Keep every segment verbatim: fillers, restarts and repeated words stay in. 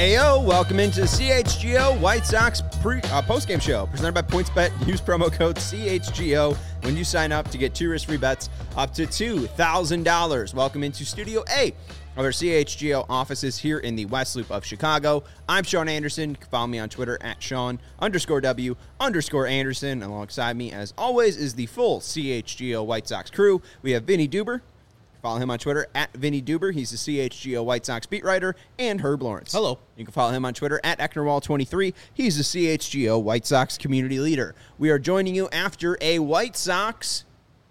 Ayo, welcome into the C H G O White Sox pre, uh, postgame show presented by PointsBet. Use promo code C H G O when you sign up to get two risk-free bets up to two thousand dollars. Welcome into Studio A of our C H G O offices here in the West Loop of Chicago. I'm Sean Anderson. You can follow me on Twitter at Sean underscore W underscore Anderson. Alongside me, as always, is the full C H G O White Sox crew. We have Vinny Duber. Follow him on Twitter at Vinny Duber. He's the C H G O White Sox beat writer, and Herb Lawrence. Hello. You can follow him on Twitter at Ecknerwall twenty-three. He's the C H G O White Sox community leader. We are joining you after a White Sox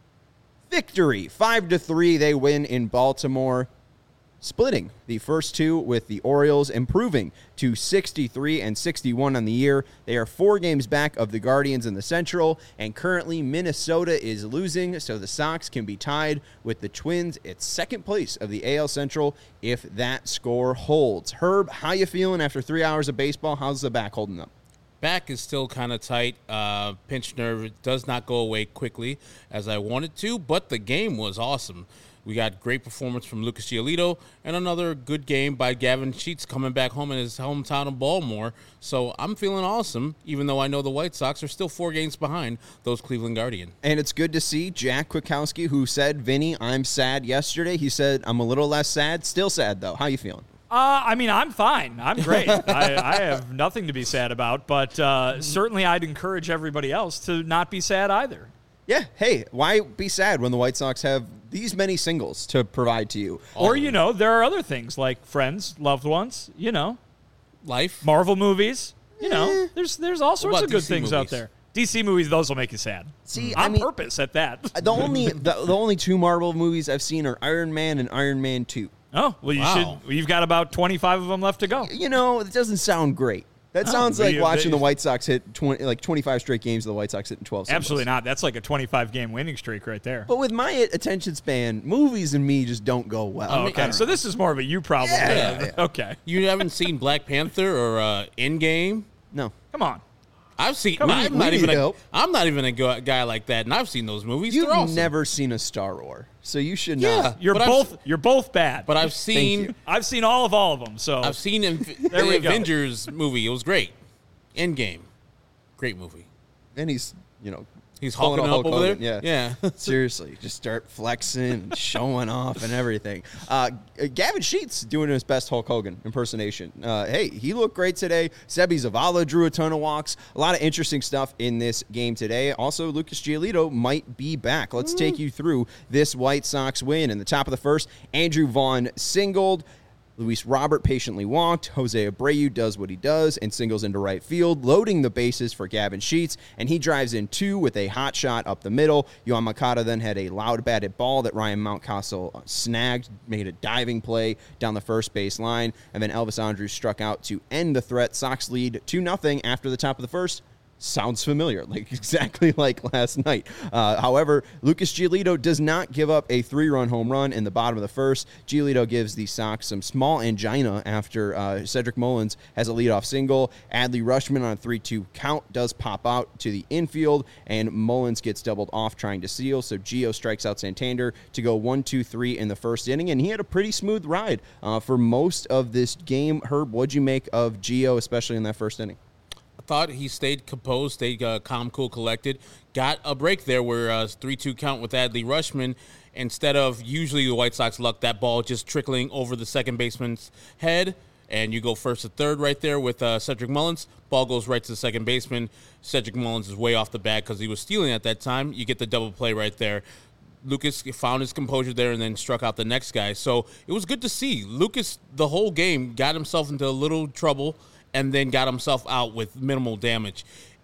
victory. Five to three, they win in Baltimore, splitting the first two with the Orioles, improving to sixty-three and sixty-one on the year. They are four games back of the Guardians in the Central, and currently Minnesota is losing, so the Sox can be tied with the Twins at second place of the A L Central if that score holds. Herb, how you feeling after three hours of baseball? How's the back holding up? Back is still kind of tight. Uh, pinched nerve does not go away quickly as I wanted to, but the game was awesome. We got great performance from Lucas Giolito and another good game by Gavin Sheets coming back home in his hometown of Baltimore. So I'm feeling awesome, even though I know the White Sox are still four games behind those Cleveland Guardians. And it's good to see Jack Kwiatkowski, who said, Vinny, I'm sad yesterday. He said, I'm a little less sad. Still sad, though. How you feeling? Uh, I mean, I'm fine. I'm great. I, I have nothing to be sad about, but uh, certainly I'd encourage everybody else to not be sad either. Yeah, hey, why be sad when the White Sox have these many singles to provide to you? Or, you know, there are other things like friends, loved ones, you know. Life. Marvel movies. You know, there's there's all sorts of good D C things movies? out there. D C movies, those will make you sad. See, On I mean, purpose at that. the only the, the only two Marvel movies I've seen are Iron Man and Iron Man two. Oh, well, you Wow. should. You've got about twenty-five of them left to go. You know, it doesn't sound great. That Oh, sounds but like you- watching but- the White Sox hit twenty, like twenty-five straight games of the White Sox hitting twelve singles. Absolutely not. That's like a twenty-five game winning streak right there. But with my attention span, movies and me just don't go well. Oh, okay, so this is more of a you problem. Yeah. than- Okay, You haven't seen Black Panther or uh, Endgame? No. come on. I've seen. on. I'm We not need even. A, help. I'm not even a go- guy like that, and I've seen those movies. You've They're awesome. never seen a Star Wars, so you should Yeah. not. You're But I've- both. You're both bad. But I've you. seen. I've seen all of all of them. So I've seen Inf- There we the go. Avengers movie. It was great. Endgame, great movie. And he's, you know, He's pulling hulking a up Hulk over Hogan, there. Yeah. Yeah. Seriously, just start flexing and showing off and everything. Uh, Gavin Sheets doing his best Hulk Hogan impersonation. Uh, hey, he looked great today. Sebi Zavala drew a ton of walks. A lot of interesting stuff in this game today. Also, Lucas Giolito might be back. Let's take you through this White Sox win. In the top of the first, Andrew Vaughn singled. Luis Robert patiently walked. Jose Abreu does what he does and singles into right field, loading the bases for Gavin Sheets, and he drives in two with a hot shot up the middle. Yohan Moncada then had a loud batted ball that Ryan Mountcastle snagged, made a diving play down the first base line, and then Elvis Andrus struck out to end the threat. Sox lead two nothing after the top of the first. Sounds familiar, like exactly like last night. Uh, however, Lucas Giolito does not give up a three-run home run in the bottom of the first. Giolito gives the Sox some small angina after uh, Cedric Mullins has a leadoff single. Adley Rutschman on a three two count does pop out to the infield, and Mullins gets doubled off trying to seal, so Gio strikes out Santander to go one two three in the first inning, and he had a pretty smooth ride uh, for most of this game. Herb, what'd you make of Gio, especially in that first inning? Thought he stayed composed, stayed uh, calm, cool, collected. Got a break there where uh, three two count with Adley Rutschman. Instead of usually the White Sox luck, that ball just trickling over the second baseman's head, and you go first to third right there with uh, Cedric Mullins. Ball goes right to the second baseman. Cedric Mullins is way off the bat because he was stealing at that time. You get the double play right there. Lucas found his composure there and then struck out the next guy. So it was good to see. Lucas, the whole game, got himself into a little trouble and then got himself out with minimal damage.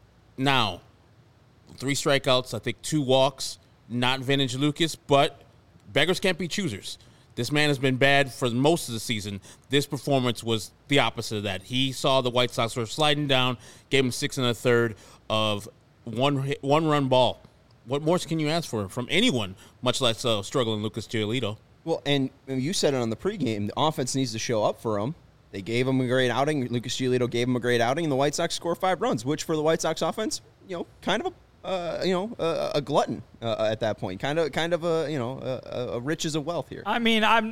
Now, three strikeouts, I think two walks, not vintage Lucas, but beggars can't be choosers. This man has been bad for most of the season. This performance was the opposite of that. He saw the White Sox were sliding down, gave him six and a third of one hit, one run ball. What more can you ask for from anyone, much less uh, struggling Lucas Giolito? Well, and you said it on the pregame, the offense needs to show up for him. They gave him a great outing. Lucas Giolito gave him a great outing, and the White Sox score five runs, which for the White Sox offense, you know, kind of a uh, you know a, a glutton uh, at that point, kind of kind of a you know a, a riches of wealth here. I mean, I'm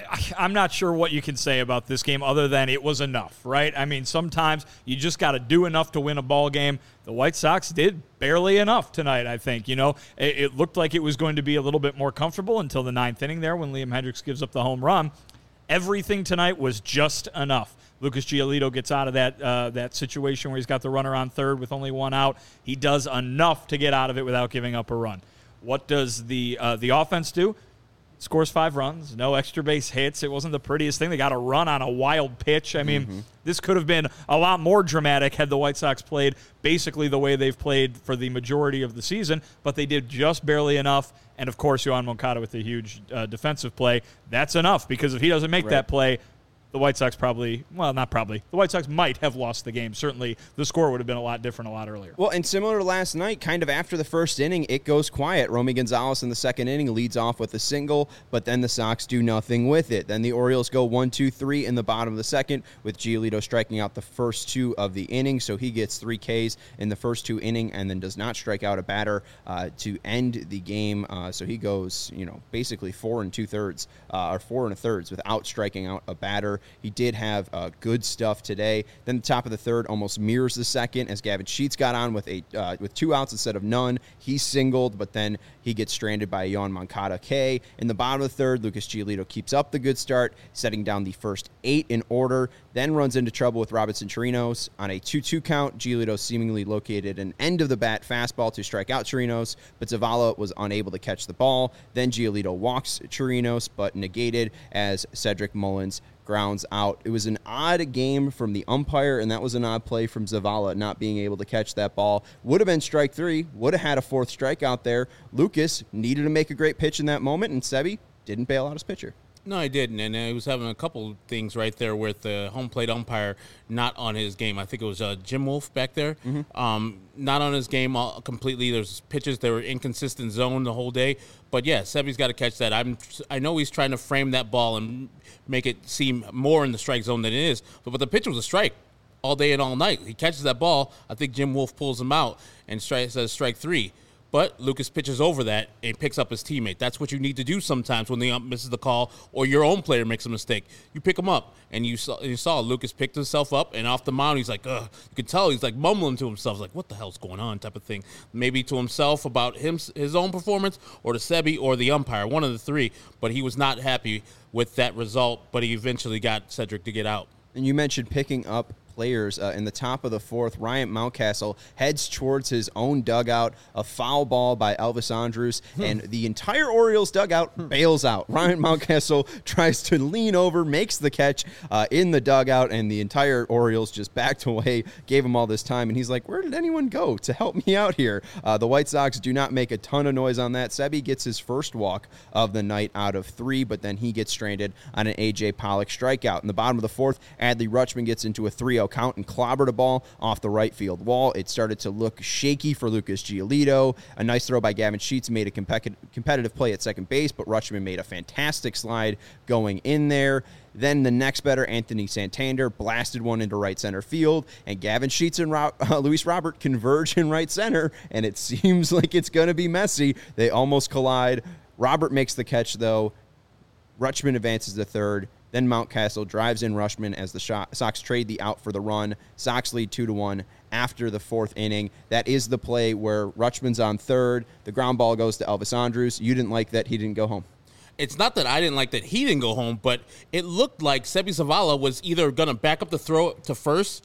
I, I'm not sure what you can say about this game other than it was enough, right? I mean, sometimes you just got to do enough to win a ball game. The White Sox did barely enough tonight, I think. You know, it, it looked like it was going to be a little bit more comfortable until the ninth inning there when Liam Hendricks gives up the home run. Everything tonight was just enough. Lucas Giolito gets out of that uh, that situation where he's got the runner on third with only one out. He does enough to get out of it without giving up a run. What does the uh, the offense do? Scores five runs, no extra base hits. It wasn't the prettiest thing. They got a run on a wild pitch. I mean, mm-hmm. this could have been a lot more dramatic had the White Sox played basically the way they've played for the majority of the season, but they did just barely enough. And, of course, Yoan Moncada with a huge uh, defensive play. That's enough because if he doesn't make right. that play, the White Sox probably, well, not probably, the White Sox might have lost the game. Certainly, the score would have been a lot different a lot earlier. Well, and similar to last night, kind of after the first inning, it goes quiet. Romy Gonzalez in the second inning leads off with a single, but then the Sox do nothing with it. Then the Orioles go one, two, three in the bottom of the second, with Giolito striking out the first two of the inning, so he gets three Ks in the first two innings and then does not strike out a batter uh, to end the game. Uh, so he goes, you know, basically four and two-thirds, uh, or four and a thirds without striking out a batter. He did have uh, good stuff today. Then the top of the third almost mirrors the second as Gavin Sheets got on with a uh, with two outs instead of none. He singled, but then he gets stranded by Yoan Moncada K. In the bottom of the third, Lucas Giolito keeps up the good start, setting down the first eight in order, then runs into trouble with Robinson Chirinos. On a two two count, Giolito seemingly located an end-of-the-bat fastball to strike out Chirinos, but Zavala was unable to catch the ball. Then Giolito walks Chirinos, but negated as Cedric Mullins grounds out. It was an odd game from the umpire, and that was an odd play from Zavala not being able to catch that ball. Would have been strike three, would have had a fourth strikeout there. Lucas needed to make a great pitch in that moment, and Sebi didn't bail out his pitcher. No, I didn't, and he was having a couple things right there with the home plate umpire not on his game. I think it was uh, Jim Wolf back there, mm-hmm. um, not on his game all, completely. There's pitches that were inconsistent zone the whole day, but yeah, Sebi's got to catch that. I'm, I know he's trying to frame that ball and make it seem more in the strike zone than it is, but, but the pitch was a strike all day and all night. He catches that ball. I think Jim Wolf pulls him out and strike, says strike three. But Lucas pitches over that and picks up his teammate. That's what you need to do sometimes when the ump misses the call or your own player makes a mistake. You pick him up, and you saw, you saw Lucas picked himself up, and off the mound, he's like, ugh. You can tell he's like mumbling to himself, like, what the hell's going on type of thing. Maybe to himself about him, his own performance, or to Sebi or the umpire, one of the three. But he was not happy with that result, but he eventually got Cedric to get out. And you mentioned picking up players uh, in the top of the fourth. Ryan Mountcastle heads towards his own dugout, a foul ball by Elvis Andrus, hmm. and the entire Orioles dugout hmm. bails out. Ryan Mountcastle tries to lean over, makes the catch uh, in the dugout, and the entire Orioles just backed away, gave him all this time, and he's like, where did anyone go to help me out here? Uh, the White Sox do not make a ton of noise on that. Sebi gets his first walk of the night out of three, but then he gets stranded on an A J Pollock strikeout. In the bottom of the fourth, Adley Rutschman gets into a three oh count and clobbered a ball off the right field wall. It started to look shaky for Lucas Giolito. A nice throw by Gavin Sheets made a competitive competitive play at second base, but Rutschman made a fantastic slide going in there. Then the next batter, Anthony Santander, blasted one into right center field, and Gavin Sheets and Ro- uh, Luis Robert converge in right center, and it seems like it's going to be messy. They almost collide. Robert makes the catch, though. Rutschman advances to third. Then Mountcastle drives in Rutschman as the Sox trade the out for the run. Sox lead two to one after the fourth inning. That is the play where Rutschman's on third. The ground ball goes to Elvis Andrus. You didn't like that he didn't go home. It's not that I didn't like that he didn't go home, but it looked like Sebi Zavala was either going to back up the throw to first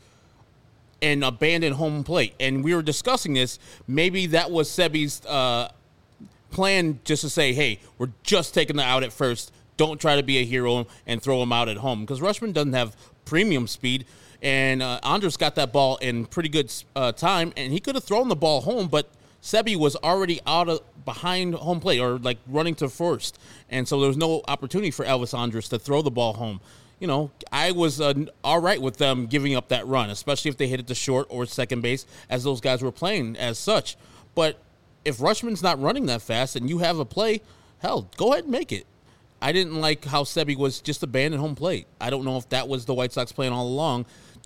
and abandon home plate. And we were discussing this. Maybe that was Sebi's uh, plan, just to say, hey, we're just taking the out at first. Don't try to be a hero and throw him out at home, because Rutschman doesn't have premium speed, and uh, Andrus got that ball in pretty good uh, time, and he could have thrown the ball home, but Sebi was already out of behind home plate, or like running to first, and so there was no opportunity for Elvis Andrus to throw the ball home. You know, I was uh, all right with them giving up that run, especially if they hit it to short or second base, as those guys were playing as such. But if Rutschman's not running that fast and you have a play, hell, go ahead and make it. I didn't like how Sebi was just abandoned home plate. I don't know if that was the White Sox plan all along,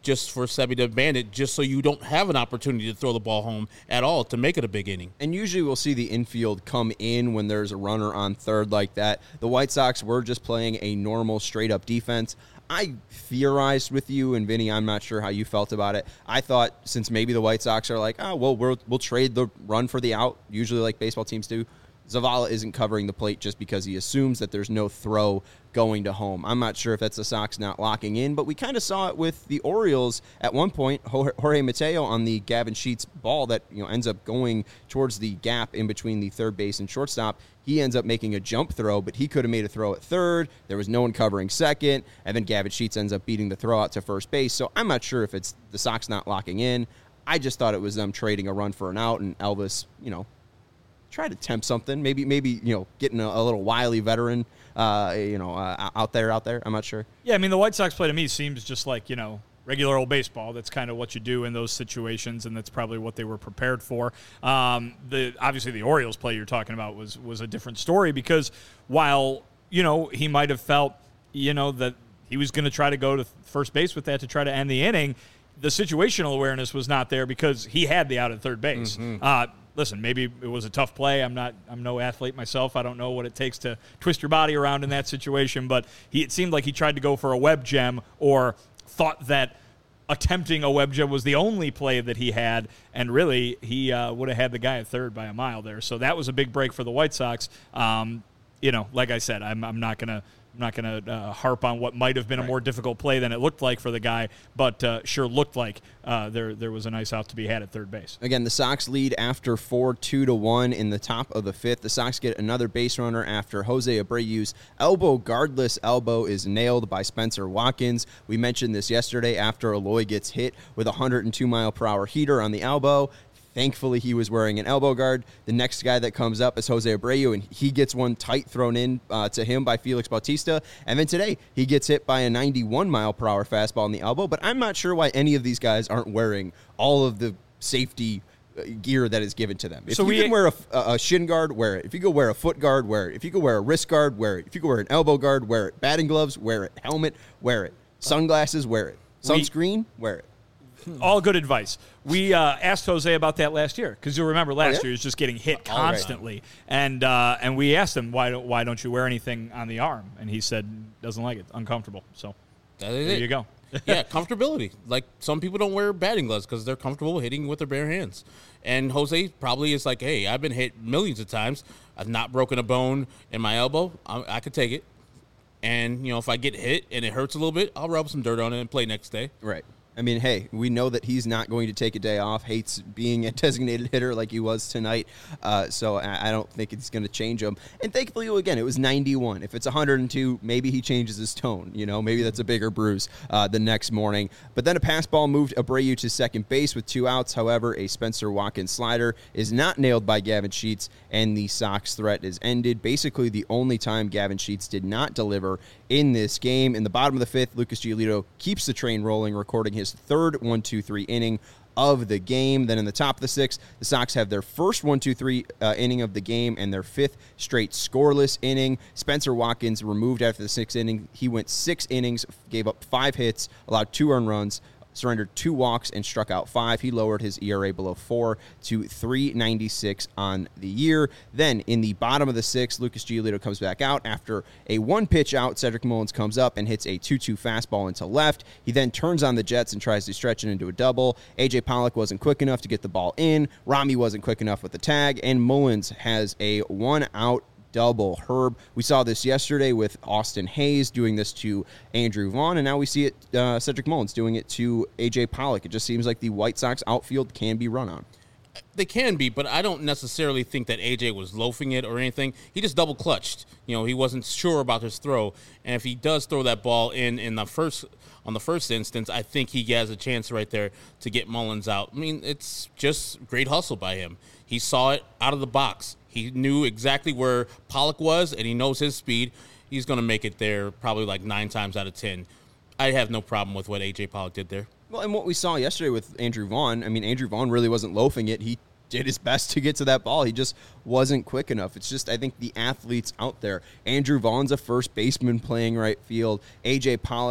just for Sebi to abandon it, just so you don't have an opportunity to throw the ball home at all to make it a big inning. And usually we'll see the infield come in when there's a runner on third like that. The White Sox were just playing a normal, straight-up defense. I theorized with you, and Vinny, I'm not sure how you felt about it. I thought since maybe the White Sox are like, oh, well, we'll, we'll trade the run for the out, usually like baseball teams do, Zavala isn't covering the plate just because he assumes that there's no throw going to home. I'm not sure if that's the Sox not locking in, but we kind of saw it with the Orioles at one point. Jorge Mateo on the Gavin Sheets ball that you know ends up going towards the gap in between the third base and shortstop. He ends up making a jump throw, but he could have made a throw at third. There was no one covering second, and then Gavin Sheets ends up beating the throw out to first base. So I'm not sure if it's the Sox not locking in. I just thought it was them trading a run for an out, and Elvis, you know, try to tempt something. Maybe, maybe you know, getting a, a little wily veteran, uh, you know, uh, out there, out there. I'm not sure. Yeah, I mean, the White Sox play to me seems just like, you know, regular old baseball. That's kind of what you do in those situations, and that's probably what they were prepared for. Um, the obviously the Orioles play you're talking about was was a different story because while you know he might have felt you know that he was going to try to go to first base with that to try to end the inning, the situational awareness was not there because he had the out at third base. Mm-hmm. Uh, Listen, maybe it was a tough play. I'm not. I'm no athlete myself. I don't know what it takes to twist your body around in that situation. But he, it seemed like he tried to go for a web gem or thought that attempting a web gem was the only play that he had, and really he uh, would have had the guy at third by a mile there. So that was a big break for the White Sox. Um, you know, like I said, I'm, I'm not gonna. I'm not going to uh, harp on what might have been right. a more difficult play than it looked like for the guy, but uh, sure looked like uh, there there was a nice out to be had at third base. Again, the Sox lead after four, two to one in the top of the fifth. The Sox get another base runner after Jose Abreu's elbow guardless elbow is nailed by Spencer Watkins. We mentioned this yesterday after Eloy gets hit with a one hundred two mile per hour heater on the elbow. Thankfully, he was wearing an elbow guard. The next guy that comes up is Jose Abreu, and he gets one tight thrown in uh, to him by Felix Bautista. And then today, he gets hit by a ninety-one mile per hour fastball in the elbow. But I'm not sure why any of these guys aren't wearing all of the safety gear that is given to them. If so you we, can wear a, a shin guard, wear it. If you go wear a foot guard, wear it. If you go wear a wrist guard, wear it. If you go wear an elbow guard, wear it. Batting gloves, wear it. Helmet, wear it. Sunglasses, wear it. Sunscreen, wear it. All good advice. We uh, asked Jose about that last year because you'll remember last oh, yeah? year he was just getting hit constantly, right. and uh, and we asked him why don't why don't you wear anything on the arm, and he said doesn't like it, uncomfortable. So that is there it. you go. Yeah, comfortability. Like some people don't wear batting gloves because they're comfortable hitting with their bare hands, and Jose probably is like, hey, I've been hit millions of times. I've not broken a bone in my elbow. I, I could take it, and you know if I get hit and it hurts a little bit, I'll rub some dirt on it and play next day. Right. I mean, hey, we know that he's not going to take a day off, hates being a designated hitter like he was tonight, uh, so I don't think it's going to change him. And thankfully, again, it was ninety-one. If it's one hundred two, maybe he changes his tone. You know, maybe that's a bigger bruise uh, the next morning. But then a pass ball moved Abreu to second base with two outs. However, a Spencer Watkins slider is not nailed by Gavin Sheets, and the Sox threat is ended. Basically, the only time Gavin Sheets did not deliver in this game. In the bottom of the fifth, Lucas Giolito keeps the train rolling, recording his third one two three inning of the game. Then in the top of the sixth, the Sox have their first one two three uh, inning of the game and their fifth straight scoreless inning. Spencer Watkins removed after the sixth inning. He went six innings, gave up five hits, allowed two earned runs, surrendered two walks, and struck out five. He lowered his E R A below four to three ninety-six on the year. Then in the bottom of the sixth, Lucas Giolito comes back out after a one-pitch out. Cedric Mullins comes up and hits a two two fastball into left. He then turns on the Jets and tries to stretch it into a double. A J Pollock wasn't quick enough to get the ball in. Rami wasn't quick enough with the tag, and Mullins has a one-out double. Herb, we saw this yesterday with Austin Hayes doing this to Andrew Vaughn, and now we see it, uh, Cedric Mullins doing it to A J Pollock. It just seems like the White Sox outfield can be run on. They can be, but I don't necessarily think that A J was loafing it or anything. He just double clutched. You know, he wasn't sure about his throw, and if he does throw that ball in in the first on the first instance, I think he has a chance right there to get Mullins out. I mean, it's just great hustle by him. He saw it out of the box. He knew exactly where Pollock was, and he knows his speed. He's going to make it there probably like nine times out of ten. I have no problem with what A J Pollock did there. Well, and what we saw yesterday with Andrew Vaughn, I mean, Andrew Vaughn really wasn't loafing it. He did his best to get to that ball. He just wasn't quick enough. It's just, I think, the athletes out there. Andrew Vaughn's a first baseman playing right field. A J Pollock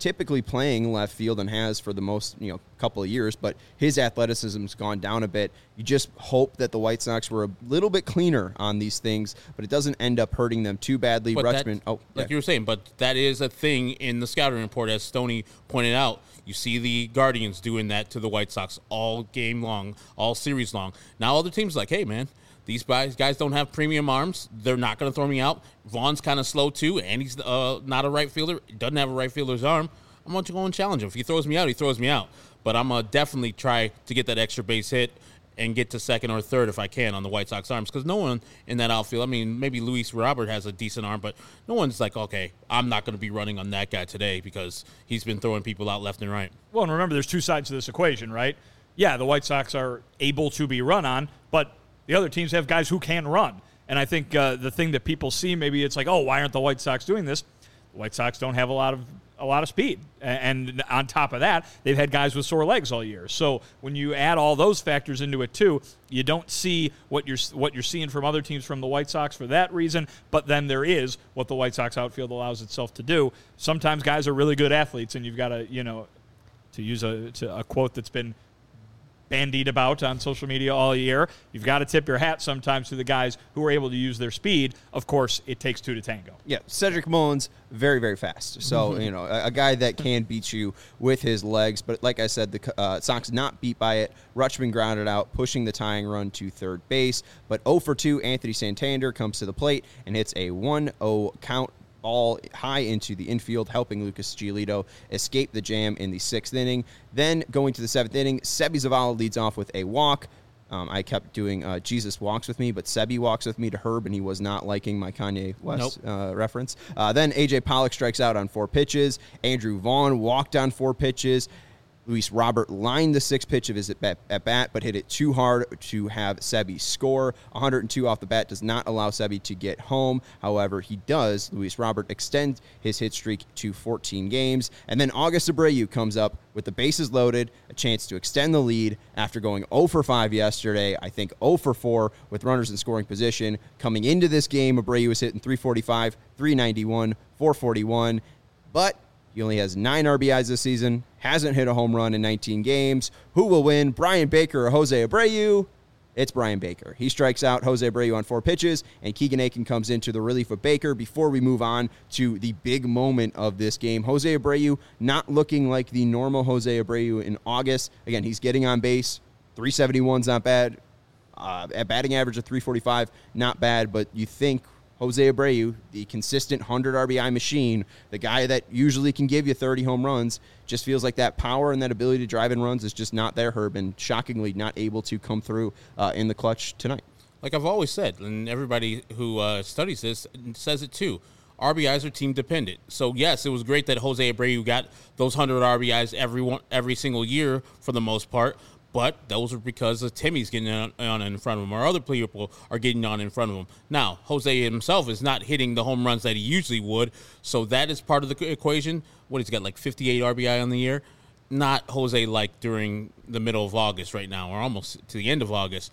typically playing left field and has for the most, you know, couple of years, but his athleticism's gone down a bit. You just hope that the White Sox were a little bit cleaner on these things, but it doesn't end up hurting them too badly. But Rutschman, that, oh, like yeah. you were saying, but that is a thing in the scouting report, as Stoney pointed out. You see the Guardians doing that to the White Sox all game long, all series long. Now other teams are like, hey, man, these guys guys don't have premium arms. They're not going to throw me out. Vaughn's kind of slow, too, and he's uh, not a right fielder. He doesn't have a right fielder's arm. I'm going to go and challenge him. If he throws me out, he throws me out. But I'm going to definitely try to get that extra base hit and get to second or third if I can on the White Sox arms, because no one in that outfield, I mean, maybe Luis Robert has a decent arm, but no one's like, okay, I'm not going to be running on that guy today because he's been throwing people out left and right. Well, and remember, there's two sides to this equation, right? Yeah, the White Sox are able to be run on, but the other teams have guys who can run. And I think uh, the thing that people see, maybe it's like, oh, why aren't the White Sox doing this? The White Sox don't have a lot of a lot of speed. And on top of that, they've had guys with sore legs all year. So when you add all those factors into it too, you don't see what you're what you're seeing from other teams from the White Sox for that reason, but then there is what the White Sox outfield allows itself to do. Sometimes guys are really good athletes, and you've got to, you know, to use a, to a quote that's been bandied about on social media all year, you've got to tip your hat sometimes to the guys who are able to use their speed. Of course, it takes two to tango. Yeah, Cedric Mullins, very, very fast. So, mm-hmm. you know, a, a guy that can beat you with his legs. But like I said, the uh, Sox not beat by it. Rutschman grounded out, pushing the tying run to third base. But oh for two, Anthony Santander comes to the plate and hits a one oh count. Ball high into the infield, helping Lucas Giolito escape the jam in the sixth inning. Then going to the seventh inning, Sebi Zavala leads off with a walk. Um, I kept doing uh, Jesus walks with me, but Sebi walks with me to Herb, and he was not liking my Kanye West nope. uh, reference. Uh, then A J Pollock strikes out on four pitches. Andrew Vaughn walked on four pitches. Luis Robert lined the sixth pitch of his at bat, at bat, but hit it too hard to have Sebi score. one oh two off the bat does not allow Sebi to get home. However, he does, Luis Robert, extend his hit streak to fourteen games. And then August Abreu comes up with the bases loaded, a chance to extend the lead after going oh for five yesterday. I think oh for four with runners in scoring position. Coming into this game, Abreu was hitting three forty-five, three ninety-one, four forty-one. But he only has nine R B Is this season, hasn't hit a home run in nineteen games. Who will win, Brian Baker or Jose Abreu? It's Brian Baker. He strikes out Jose Abreu on four pitches, and Keegan Aiken comes into the relief of Baker before we move on to the big moment of this game. Jose Abreu not looking like the normal Jose Abreu in August. Again, he's getting on base. three seventy-one's not bad. Uh, at batting average of three forty-five, not bad, but you think Jose Abreu, the consistent one hundred R B I machine, the guy that usually can give you thirty home runs, just feels like that power and that ability to drive in runs is just not there, Herb, and shockingly not able to come through uh, in the clutch tonight. Like I've always said, and everybody who uh, studies this says it too, R B Is are team dependent. So yes, it was great that Jose Abreu got those one hundred R B Is every one, every single year for the most part. But those are because of Timmy's getting on, on in front of him, or other people are getting on in front of him. Now, Jose himself is not hitting the home runs that he usually would, so that is part of the equation. What, he's got like fifty-eight R B I on the year? Not Jose like during the middle of August right now, or almost to the end of August.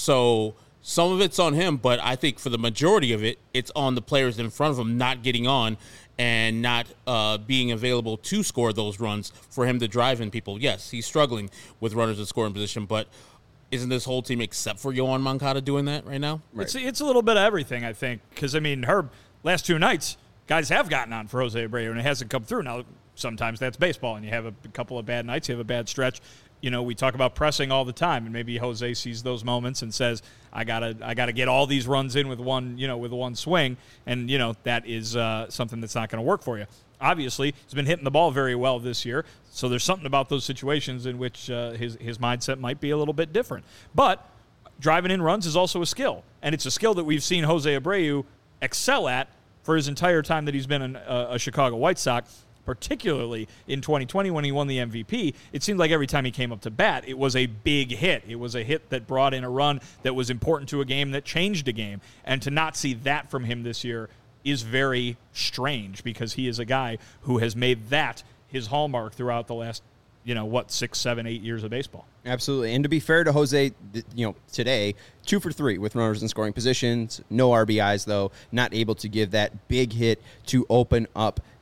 So some of it's on him, but I think for the majority of it, it's on the players in front of him not getting on and not uh, being available to score those runs for him to drive in people. Yes, he's struggling with runners in scoring position, but isn't this whole team except for Yohan Moncada doing that right now? Right. It's, it's a little bit of everything, I think, because, I mean, Herb, last two nights, guys have gotten on for Jose Abreu, and it hasn't come through. Now, sometimes that's baseball, and you have a couple of bad nights, you have a bad stretch. You know, we talk about pressing all the time, and maybe Jose sees those moments and says, I gotta I gotta get all these runs in with one, you know, with one swing, and, you know, that is uh, something that's not going to work for you. Obviously, he's been hitting the ball very well this year, so there's something about those situations in which uh, his, his mindset might be a little bit different. But driving in runs is also a skill, and it's a skill that we've seen Jose Abreu excel at for his entire time that he's been an, uh, a Chicago White Sox. Particularly in twenty twenty when he won the M V P, it seemed like every time he came up to bat, it was a big hit. It was a hit that brought in a run that was important to a game, that changed a game. And to not see that from him this year is very strange, because he is a guy who has made that his hallmark throughout the last, you know, what, six, seven, eight years of baseball. Absolutely. And to be fair to Jose, you know, today, two for three with runners in scoring positions, no R B Is, though, not able to give that big hit to open up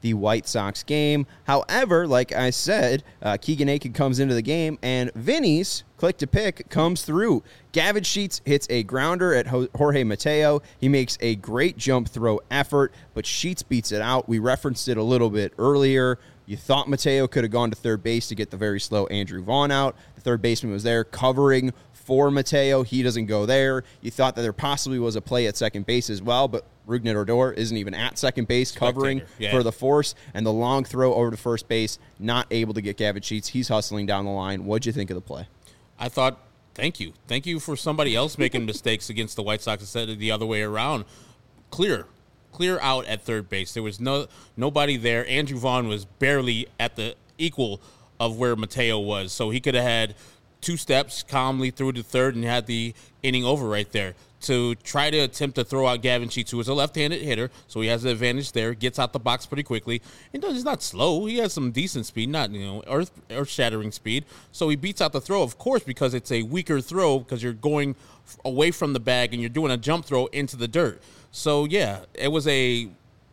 the White Sox game. However, like I said, uh, Keegan Aiken comes into the game, and Vinny's click to pick comes through. Gavin Sheets hits a grounder at Jorge Mateo. He makes a great jump throw effort, but Sheets beats it out. We referenced it a little bit earlier. You thought Mateo could have gone to third base to get the very slow Andrew Vaughn out. The third baseman was there covering for Mateo. He doesn't go there. You thought that there possibly was a play at second base as well, but Rougned Odor isn't even at second base covering yeah. for the force, and the long throw over to first base, not able to get Gavin Sheets. He's hustling down the line. What'd you think of the play? I thought, thank you. Thank you for somebody else making mistakes against the White Sox instead of the other way around. Clear. Clear out at third base. There was no nobody there. Andrew Vaughn was barely at the equal of where Mateo was, so he could have had two steps calmly through to third and had the inning over right there. To try to attempt to throw out Gavin Sheets, who is a left-handed hitter, so he has the advantage there, gets out the box pretty quickly. And he's not slow. He has some decent speed, not, you know, earth, earth-shattering speed. So he beats out the throw, of course, because it's a weaker throw because you're going away from the bag and you're doing a jump throw into the dirt. So, yeah, it was a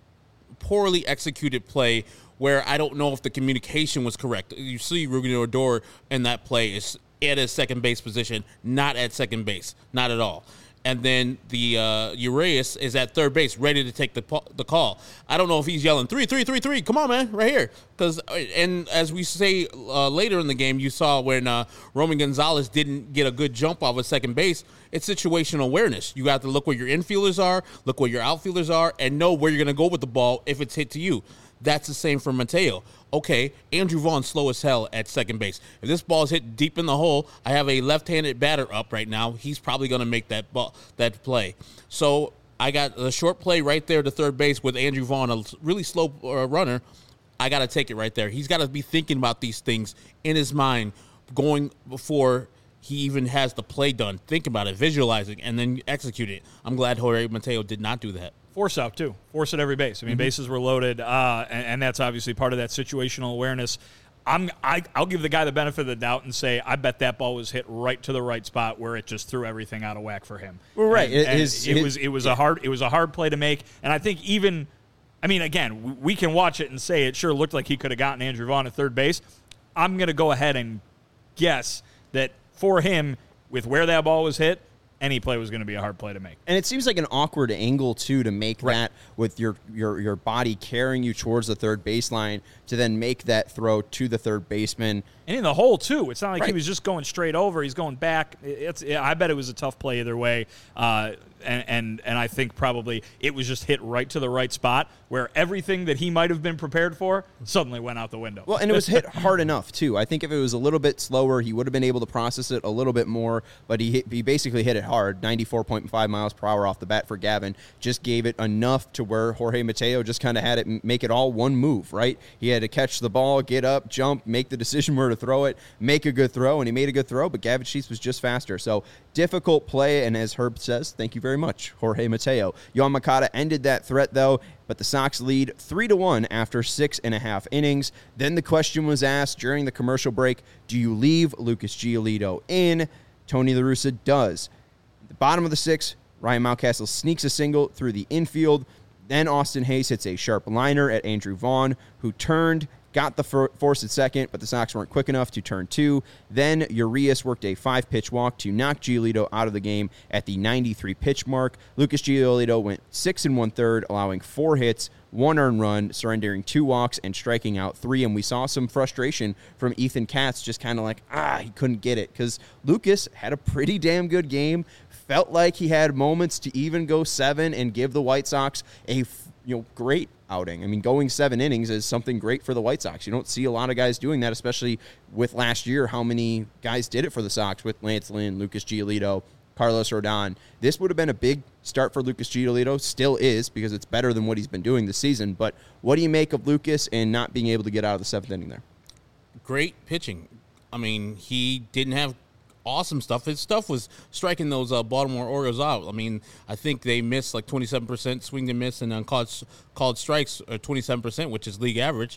poorly executed play where I don't know if the communication was correct. You see Rougned Odor in that play is at his second base position, not at second base, not at all. And then the uh, Urias is at third base, ready to take the the call. I don't know if he's yelling three, three, three, three. Come on, man, right here. Because and as we say uh, later in the game, you saw when uh, Roman Gonzalez didn't get a good jump off of second base. It's situational awareness. You have to look where your infielders are, look where your outfielders are, and know where you're going to go with the ball if it's hit to you. That's the same for Mateo. Okay, Andrew Vaughn's slow as hell at second base. If this ball is hit deep in the hole, I have a left-handed batter up right now. He's probably going to make that ball, that play. So I got a short play right there to third base with Andrew Vaughn, a really slow uh, runner. I got to take it right there. He's got to be thinking about these things in his mind going before he even has the play done. Think about it, visualizing, and then execute it. I'm glad Jorge Mateo did not do that. Force out, too. Force at every base. I mean, mm-hmm. bases were loaded, uh, and, and that's obviously part of that situational awareness. I'm, I, I'll give the guy the benefit of the doubt and say I bet that ball was hit right to the right spot where it just threw everything out of whack for him. Well, right. And, and his, it his, was it was yeah. a hard it was a hard play to make, and I think even, I mean, again, we can watch it and say it sure looked like he could have gotten Andrew Vaughn at third base. I'm going to go ahead and guess that for him, with where that ball was hit, any play was going to be a hard play to make. And it seems like an awkward angle, too, to make right. that with your, your, your body carrying you towards the third baseline to then make that throw to the third baseman. And in the hole, too. It's not like right. he was just going straight over. He's going back. It's. I bet it was a tough play either way. Uh, and, and, and I think probably it was just hit right to the right spot where everything that he might have been prepared for suddenly went out the window. Well, and it was hit hard enough, too. I think if it was a little bit slower, he would have been able to process it a little bit more. But he hit, he basically hit it hard, ninety-four point five miles per hour off the bat for Gavin. Just gave it enough to where Jorge Mateo just kind of had it make it all one move, right? He had to catch the ball, get up, jump, make the decision where to throw it, make a good throw, and he made a good throw, but Gavin Sheets was just faster. So difficult play, and as Herb says, thank you very much, Jorge Mateo. Yoan Moncada ended that threat, though, but the Sox lead three to one after six and a half innings. Then the question was asked during the commercial break, do you leave Lucas Giolito in? Tony La Russa does. At the bottom of the sixth, Ryan Mountcastle sneaks a single through the infield. Then Austin Hayes hits a sharp liner at Andrew Vaughn, who turned, got the for- force at second, but the Sox weren't quick enough to turn two. Then Urias worked a five-pitch walk to knock Giolito out of the game at the ninety-three pitch mark. Lucas Giolito went six and one-third, allowing four hits, one earned run, surrendering two walks, and striking out three. And we saw some frustration from Ethan Katz, just kind of like, ah, he couldn't get it. Because Lucas had a pretty damn good game, felt like he had moments to even go seven and give the White Sox a you know great outing. I mean, going seven innings is something great for the White Sox. You don't see a lot of guys doing that, especially with last year, how many guys did it for the Sox with Lance Lynn, Lucas Giolito, Carlos Rodon. This would have been a big start for Lucas Giolito. Still is, because it's better than what he's been doing this season. But what do you make of Lucas and not being able to get out of the seventh inning there? Great pitching. I mean, he didn't have awesome stuff. His stuff was striking those uh, Baltimore Orioles out. I mean, I think they missed like twenty-seven percent swing to miss and uncalled called strikes, or twenty-seven percent, which is league average.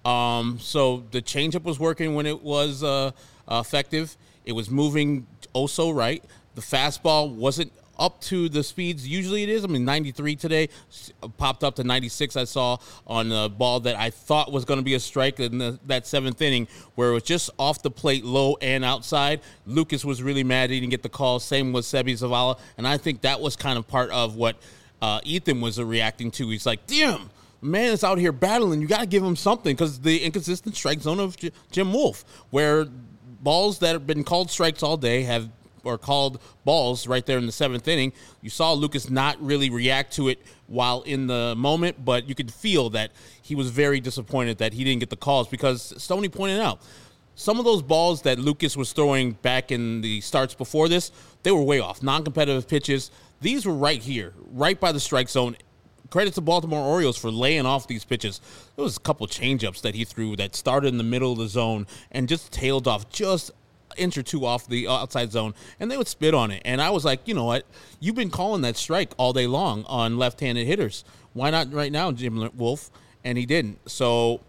Um, so the changeup was working when it was uh, uh, effective. It was moving oh so right. The fastball wasn't up to the speeds usually it is. I mean, ninety-three today, popped up to ninety-six I saw on a ball that I thought was going to be a strike in the, that seventh inning where it was just off the plate, low and outside. Lucas was really mad he didn't get the call. Same with Seby Zavala. And I think that was kind of part of what uh, Ethan was reacting to. He's like, damn, man is out here battling. You got to give him something because the inconsistent strike zone of J- Jim Wolf, where balls that have been called strikes all day have or called balls right there in the seventh inning. You saw Lucas not really react to it while in the moment, but you could feel that he was very disappointed that he didn't get the calls because Stoney pointed out some of those balls that Lucas was throwing back in the starts before this, they were way off. Non-competitive pitches. These were right here, right by the strike zone. Credit to Baltimore Orioles for laying off these pitches. There was a couple changeups that he threw that started in the middle of the zone and just tailed off just inch or two off the outside zone, and they would spit on it. And I was like, you know what? You've been calling that strike all day long on left-handed hitters. Why not right now, Jim Wolf? And he didn't. So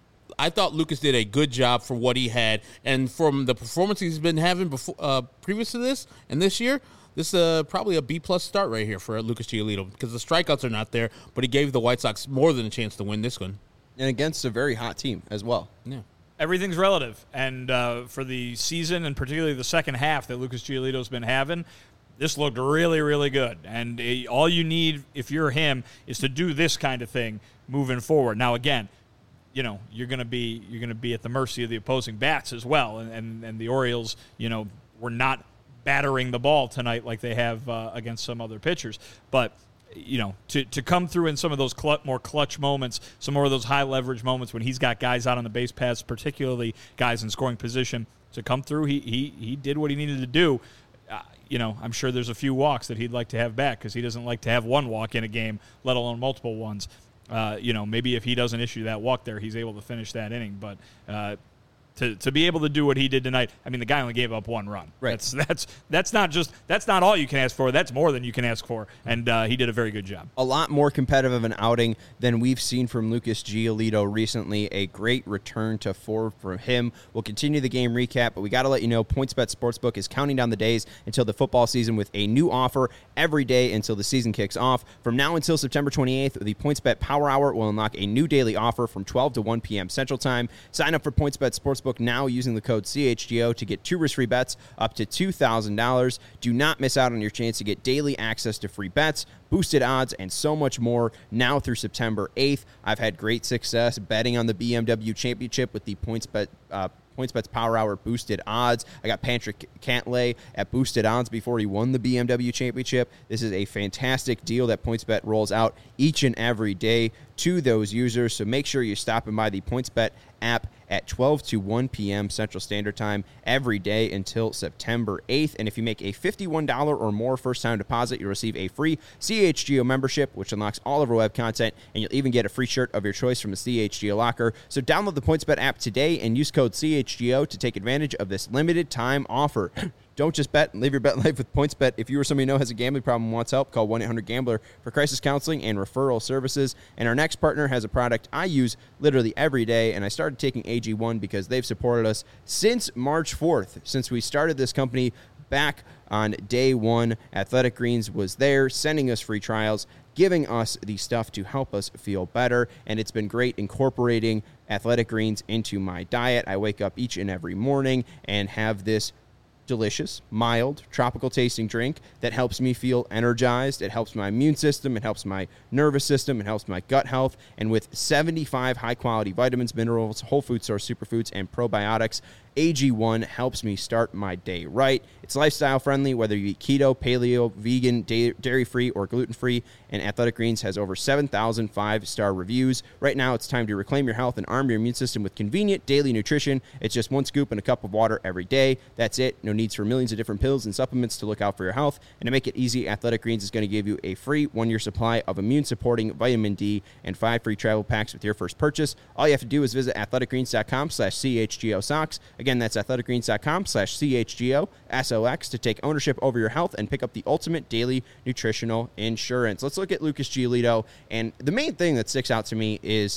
I thought Lucas did a good job for what he had. And from the performance he's been having before, uh, previous to this and this year, this is uh, probably a B-plus start right here for Lucas Giolito because the strikeouts are not there, but he gave the White Sox more than a chance to win this one. And against a very hot team as well. Yeah. Everything's relative, and uh, for the season and particularly the second half that Lucas Giolito's been having, this looked really, really good. And uh, all you need, if you're him, is to do this kind of thing moving forward. Now, again, you know you're going to be you're going to be at the mercy of the opposing bats as well, and, and and the Orioles, you know, were not battering the ball tonight like they have uh, against some other pitchers, but. You know, to, to come through in some of those cl- more clutch moments, some more of those high leverage moments when he's got guys out on the base paths, particularly guys in scoring position, to come through, he he he did what he needed to do. Uh, you know, I'm sure there's a few walks that he'd like to have back because he doesn't like to have one walk in a game, let alone multiple ones. Uh, you know, maybe if he doesn't issue that walk there, he's able to finish that inning. But uh, to to be able to do what he did tonight, I mean, the guy only gave up one run. Right. That's that's that's not just that's not all you can ask for. That's more than you can ask for, and uh, he did a very good job. A lot more competitive of an outing than we've seen from Lucas Giolito recently. A great return to form from him. We'll continue the game recap, but we got to let you know PointsBet Sportsbook is counting down the days until the football season with a new offer every day until the season kicks off. From now until September twenty-eighth, the PointsBet Power Hour will unlock a new daily offer from twelve to one p.m. Central Time. Sign up for PointsBet Sportsbook now using the code C H G O to get two risk-free bets up to two thousand dollars. Do not miss out on your chance to get daily access to free bets, boosted odds, and so much more now through September eighth. I've had great success betting on the B M W Championship with the PointsBet uh, PointsBet's Power Hour boosted odds. I got Patrick Cantlay at boosted odds before he won the B M W Championship. This is a fantastic deal that PointsBet rolls out each and every day to those users, so make sure you're stopping by the PointsBet app at twelve to one p.m. Central Standard Time every day until September eighth. And if you make a fifty-one dollars or more first-time deposit, you'll receive a free C H G O membership, which unlocks all of our web content, and you'll even get a free shirt of your choice from the C H G O locker. So download the PointsBet app today and use code C H G O to take advantage of this limited-time offer. Don't just bet and live your bet life with PointsBet. If you or somebody you know has a gambling problem and wants help, call one eight hundred gambler for crisis counseling and referral services. And our next partner has a product I use literally every day, and I started taking A G one because they've supported us since March fourth, since we started this company back on day one. Athletic Greens was there sending us free trials, giving us the stuff to help us feel better, and it's been great incorporating Athletic Greens into my diet. I wake up each and every morning and have this delicious, mild, tropical tasting drink that helps me feel energized. It helps my immune system. It helps my nervous system. It helps my gut health. And with seventy-five high-quality vitamins, minerals, whole food source superfoods, and probiotics, A G one helps me start my day right. It's lifestyle friendly, whether you eat keto, paleo, vegan, dairy-free, or gluten-free, and Athletic Greens has over seven thousand five-star reviews. Right now, it's time to reclaim your health and arm your immune system with convenient daily nutrition. It's just one scoop and a cup of water every day. That's it. No needs for millions of different pills and supplements to look out for your health. And to make it easy, Athletic Greens is going to give you a free one-year supply of immune-supporting vitamin D and five free travel packs with your first purchase. All you have to do is visit athleticgreens.com slash CHGO socks. Again, that's athleticgreens.com slash CHGO S O X to take ownership over your health and pick up the ultimate daily nutritional insurance. Let's look at Lucas Giolito. And the main thing that sticks out to me is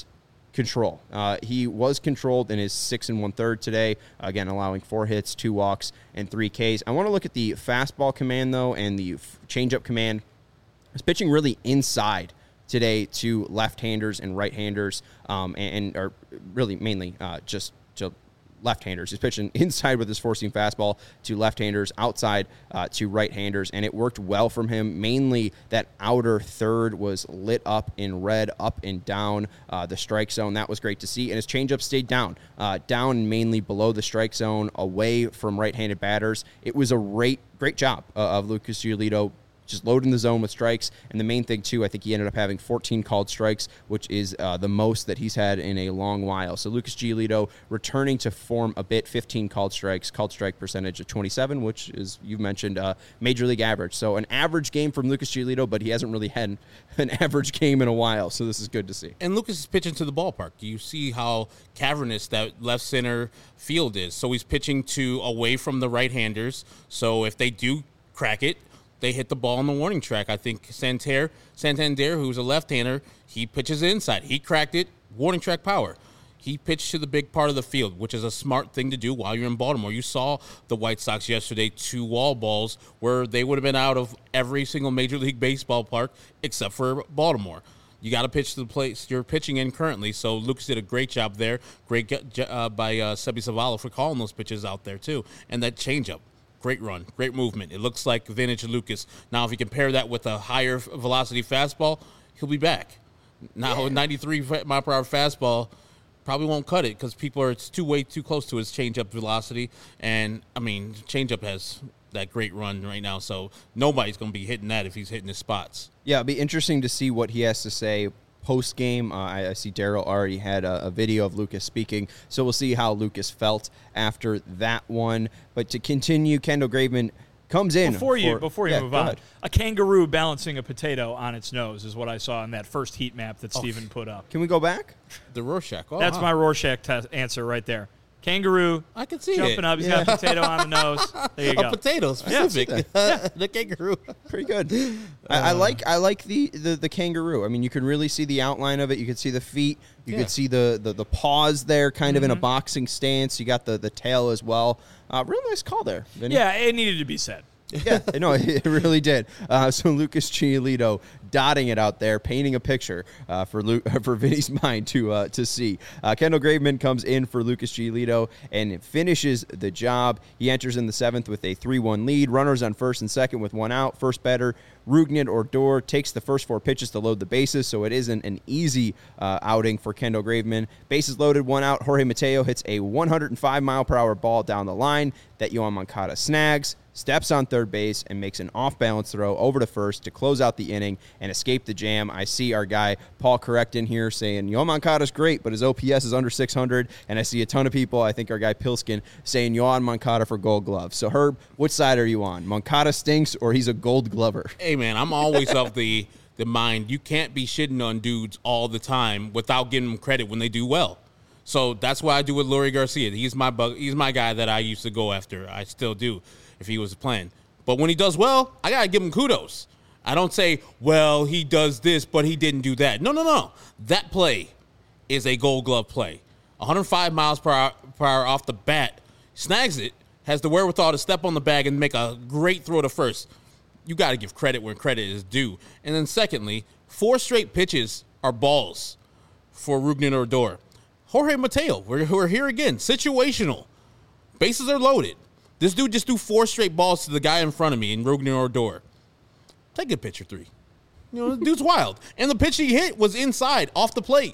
control. Uh, he was controlled in his six and one third today, again allowing four hits, two walks, and three Ks. I want to look at the fastball command though, and the f- changeup command. He's pitching really inside today to left-handers and right-handers, um, and, and or really mainly uh, just to left-handers. He's pitching inside with his four-seam fastball to left-handers, outside uh, to right-handers, and it worked well from him. Mainly that outer third was lit up in red, up and down uh, the strike zone. That was great to see, and his changeup stayed down, uh, down mainly below the strike zone, away from right-handed batters. It was a great, great job uh, of Lucas Giolito, just loading the zone with strikes. And the main thing, too, I think he ended up having fourteen called strikes, which is uh, the most that he's had in a long while. So Lucas Giolito returning to form a bit, fifteen called strikes, called strike percentage of twenty-seven, which is, you've mentioned, uh, major league average. So an average game from Lucas Giolito, but he hasn't really had an average game in a while. So this is good to see. And Lucas is pitching to the ballpark. You see how cavernous that left center field is. So he's pitching to away from the right-handers. So if they do crack it, they hit the ball on the warning track. I think Santander, Santander, who's a left-hander, he pitches inside. He cracked it, warning track power. He pitched to the big part of the field, which is a smart thing to do while you're in Baltimore. You saw the White Sox yesterday, two wall balls, where they would have been out of every single Major League Baseball park except for Baltimore. You got to pitch to the place you're pitching in currently. So Lucas did a great job there. Great uh, by uh, Seby Zavala for calling those pitches out there, too. And that changeup. Great run, great movement. It looks like vintage Lucas. Now, if you compare that with a higher velocity fastball, he'll be back. Now, yeah. ninety-three mile per hour fastball probably won't cut it because people are it's too way too close to his changeup velocity. And I mean, changeup has that great run right now, so nobody's going to be hitting that if he's hitting his spots. Yeah, it'll be interesting to see what he has to say post game. Uh, I, I see Daryl already had a, a video of Lucas speaking, so we'll see how Lucas felt after that one. But to continue, Kendall Graveman comes in. Before you, for, before you yeah, move go on, ahead. a kangaroo balancing a potato on its nose is what I saw in that first heat map that Oh. Steven put up. Can we go back? The Rorschach. Oh, That's huh. my Rorschach te- answer right there. Kangaroo. I can see jumping it. up. He's Yeah. got a potato on the nose. There you A go. potato specific. Yeah. The kangaroo. Pretty good. I, I like I like the, the, the kangaroo. I mean, you can really see the outline of it. You can see the feet. You Yeah. could see the, the, the paws there, kind of in a boxing stance. You got the, the tail as well. Uh, real nice call there, Vinny. Yeah, it needed to be said. Yeah, no, it really did. Uh, so Lucas Giolito dotting it out there, painting a picture uh, for Lu- for Vinny's mind to uh, to see. Uh, Kendall Graveman comes in for Lucas Giolito and finishes the job. He enters in the seventh with a three one lead. Runners on first and second with one out. First batter, Rougned Odor takes the first four pitches to load the bases, so it isn't an easy uh, outing for Kendall Graveman. Bases loaded, one out. Jorge Mateo hits a one hundred five mile per hour ball down the line that Yoan Moncada snags, steps on third base, and makes an off-balance throw over to first to close out the inning and escape the jam. I see our guy Paul Correct in here saying, Yoan Moncada's great, but his O P S is under six hundred, and I see a ton of people, I think our guy Pilskin, saying Yoan Moncada for Gold Glove. So, Herb, which side are you on? Moncada stinks or he's a Gold Glover? Hey, man, I'm always of the, the mind you can't be shitting on dudes all the time without giving them credit when they do well. So that's what I do with Leury Garcia. He's my bug, he's my guy that I used to go after. I still do if he was playing. But when he does well, I got to give him kudos. I don't say, well, he does this, but he didn't do that. No, no, no. That play is a Gold Glove play. one hundred five miles per hour, per hour off the bat, snags it, has the wherewithal to step on the bag and make a great throw to first. You got to give credit where credit is due. And then secondly, four straight pitches are balls for Rougned Odor. Jorge Mateo, we're, we're here again. Situational. Bases are loaded. This dude just threw four straight balls to the guy in front of me in Rougned Odor. Take a picture three. You know, the dude's wild. And the pitch he hit was inside, off the plate.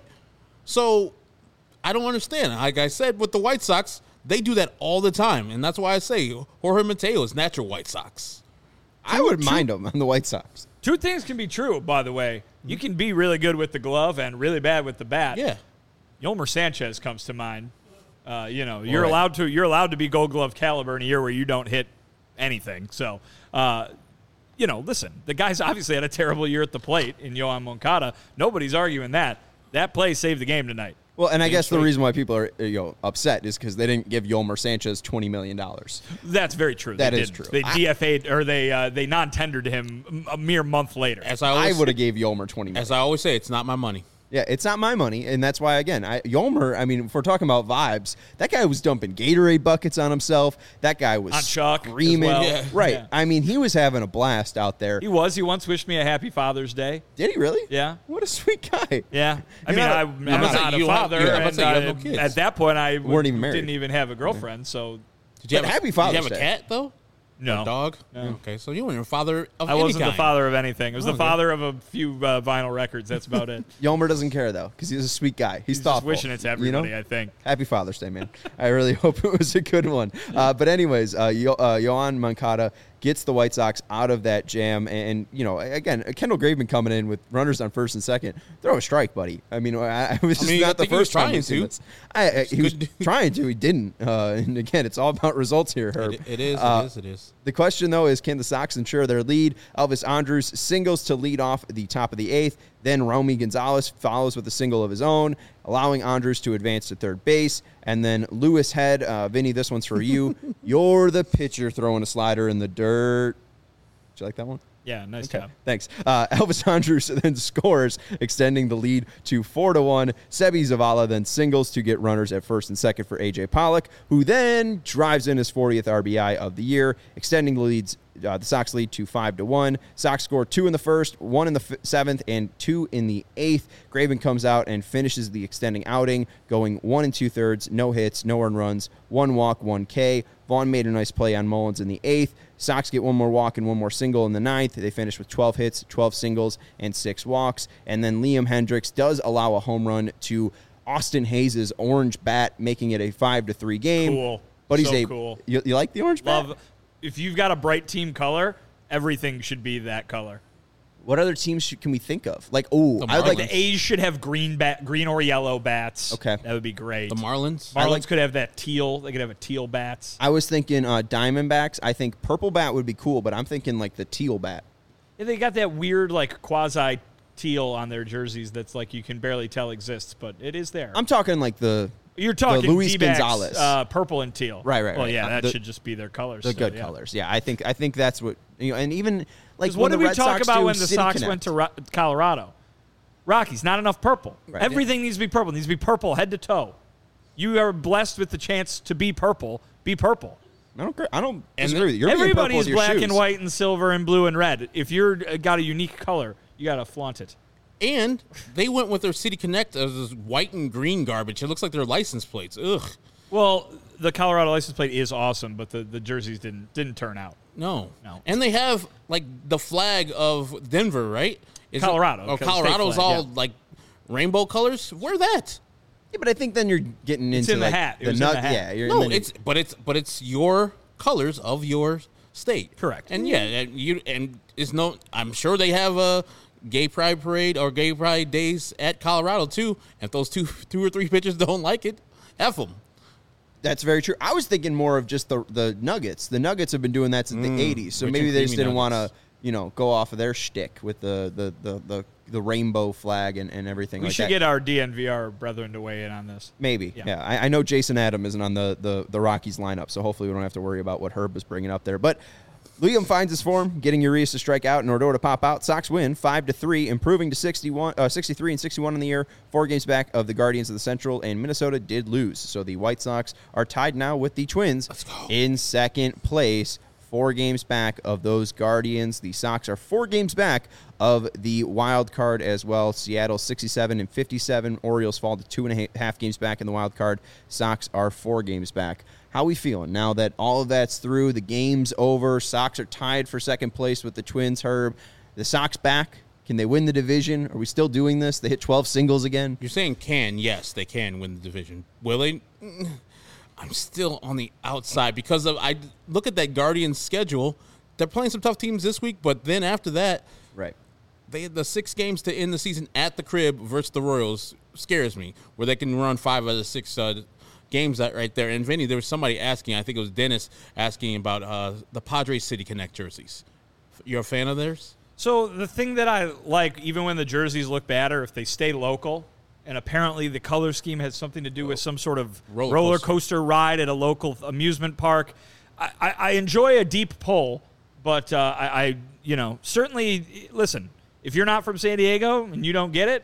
So, I don't understand. Like I said, with the White Sox, they do that all the time. And that's why I say Jorge Mateo is natural White Sox. I would mind him on the White Sox. Two things can be true, by the way. You can be really good with the glove and really bad with the bat. Yeah. Yolmer Sanchez comes to mind. Uh, you know, you're right. allowed to you're allowed to be Gold Glove caliber in a year where you don't hit anything. So, uh, you know, listen, the guy's obviously had a terrible year at the plate in Yoan Moncada. Nobody's arguing that. That play saved the game tonight. Well, and I guess the straight. reason why people are you know upset is because they didn't give Yolmer Sanchez twenty million dollars. That's very true. That they is didn't. true. They I- D F A'd or they uh, they non-tendered him a mere month later. As I I always, would have gave Yolmer twenty million as I always say, it's not my money. Yeah, it's not my money, and that's why, again, I, Yolmer, I mean, if we're talking about vibes, that guy was dumping Gatorade buckets on himself. That guy was On Chuck as screaming. well. Yeah. Right. Yeah. I mean, he was having a blast out there. He was. He once wished me a happy Father's Day. Did he really? Yeah. What a sweet guy. Yeah. I You're mean, not a- I, you're I'm not not a- a you have- father, yeah, I'm about to and say you have I- no kids. at that point, I Weren't even married. didn't even have a girlfriend, so Did you But have happy a, Father's Did you have Day. a cat though? no. A dog? No. Okay, so you weren't a father of I any wasn't kind. the father of anything. I was the Okay. father of a few uh, vinyl records. That's about it. Yolmer doesn't care, though, because he's a sweet guy. He's, He's just thoughtful. wishing it to you everybody, know? I think. Happy Father's Day, man. I really hope it was a good one. Uh, but anyways, uh, Yo- uh, Yohan Moncada gets the White Sox out of that jam. And, you know, again, Kendall Graveman coming in with runners on first and second. Throw a strike, buddy. I mean, I, I was I mean, I not the think he was first time trying we've seen to. this. I, I, he was good. trying to. He didn't. Uh, and, again, it's all about results here, Herb. It, it is. Uh, it is. It is. The question, though, is can the Sox ensure their lead? Elvis Andrus singles to lead off the top of the eighth. Then Romy Gonzalez follows with a single of his own, allowing Andrus to advance to third base. And then Lewis Head, uh, Vinny, this one's for you. You're the pitcher throwing a slider in the dirt. Did you like that one? Yeah, nice Okay, job. thanks. Uh, Elvis Andrus then scores, extending the lead to four to one. Sebi Zavala then singles to get runners at first and second for A J Pollock, who then drives in his fortieth R B I of the year, extending the leads. Uh, the Sox lead to five to one. Sox score two in the first, one in the f- seventh, and two in the eighth. Graven comes out and finishes the extending outing, going one and two thirds, no hits, no earned runs, one walk, one K. Vaughn made a nice play on Mullins in the eighth. Sox get one more walk and one more single in the ninth. They finish with twelve hits, twelve singles, and six walks. And then Liam Hendricks does allow a home run to Austin Hayes' orange bat, making it a five to three game. Cool. But he's So a cool. You, you like the orange bat? Love. If you've got a bright team color, everything should be that color. What other teams should, can we think of? Like, oh, The I would like Like the A's should have green bat, green or yellow bats. Okay. That would be great. The Marlins. Marlins like- could have that teal. They could have a teal bats. I was thinking uh, Diamondbacks. I think purple bat would be cool, but I'm thinking like the teal bat. Yeah, they got that weird like quasi teal on their jerseys that's like you can barely tell exists, but it is there. I'm talking like the You're talking Luis D-backs, Gonzalez. uh, purple and teal. Right, right, Well, right. yeah, Uh, that the- should just be their colors. the so, good yeah. colors. Yeah, I think I think that's what you know. And even like Because when what did the we Red talk Sox about do when the City Sox Connect. went to Ro- Colorado? Rockies, not enough purple. Right. Everything needs to be purple. It needs to be purple head to toe. You are blessed with the chance to be purple. Be purple. I don't. agree- I don't And disagree with you. You're being purple Everybody's with your black shoes. and white and silver and blue and red. If you're uh, got a unique color, you got to flaunt it. And they went with their City Connect as this white and green garbage. It looks like their license plates. Ugh. Well, the Colorado license plate is awesome, but the, the jerseys didn't didn't turn out. No. No. And they have like the flag of Denver, right? Is Colorado, It, oh, state Colorado's flag, all yeah. like rainbow colors. Wear that. Yeah, but I think then you're getting into in the like, hat. It the was in nut. the hat. Yeah, you're No, and then- it's but it's but it's your colors of your state. Correct. And yeah, and you and it's no. I'm sure they have a gay pride parade or gay pride days at Colorado too. If those two two or three pitchers don't like it, F them. That's very true. I was thinking more of just the the Nuggets. The Nuggets have been doing that since the eighties, so rich maybe and they just creamy didn't want to, Nuggets. you know, go off of their shtick with the the the the, the rainbow flag and, and everything We like should that. get our D N V R brethren to weigh in on this. Maybe, yeah. Yeah. I, I know Jason Adam isn't on the, the the Rockies lineup, so hopefully we don't have to worry about what Herb was bringing up there. But Liam finds his form, getting Urias to strike out and Odor to pop out. Sox win five to three, improving to sixty-one, uh, sixty-three and sixty-one in the year. Four games back of the Guardians of the Central, and Minnesota did lose. So the White Sox are tied now with the Twins in second place. Four games back of those Guardians. The Sox are four games back of the wild card as well. Seattle sixty-seven and fifty-seven. Orioles fall to two and a half games back in the wild card. Sox are four games back. How we feeling now that all of that's through? The game's over. Sox are tied for second place with the Twins. Herb, the Sox back. Can they win the division? Are we still doing this? They hit twelve singles again. You're saying can, yes, they can win the division. Will they? Mm, I'm still on the outside because of I look at that Guardians schedule. They're playing some tough teams this week, but then after that, Right. they had the six games to end the season at the crib versus the Royals scares me, where they can run five out of the six uh, games that right there. And Vinny, there was somebody asking, I think it was Dennis asking about uh, the Padres City Connect jerseys. You're a fan of theirs? So the thing that I like, even when the jerseys look bad or if they stay local, and apparently the color scheme has something to do with some sort of Roller roller, coaster. coaster ride at a local amusement park. I, I, I enjoy a deep pull, but uh, I, I, you know, certainly, listen, if you're not from San Diego and you don't get it,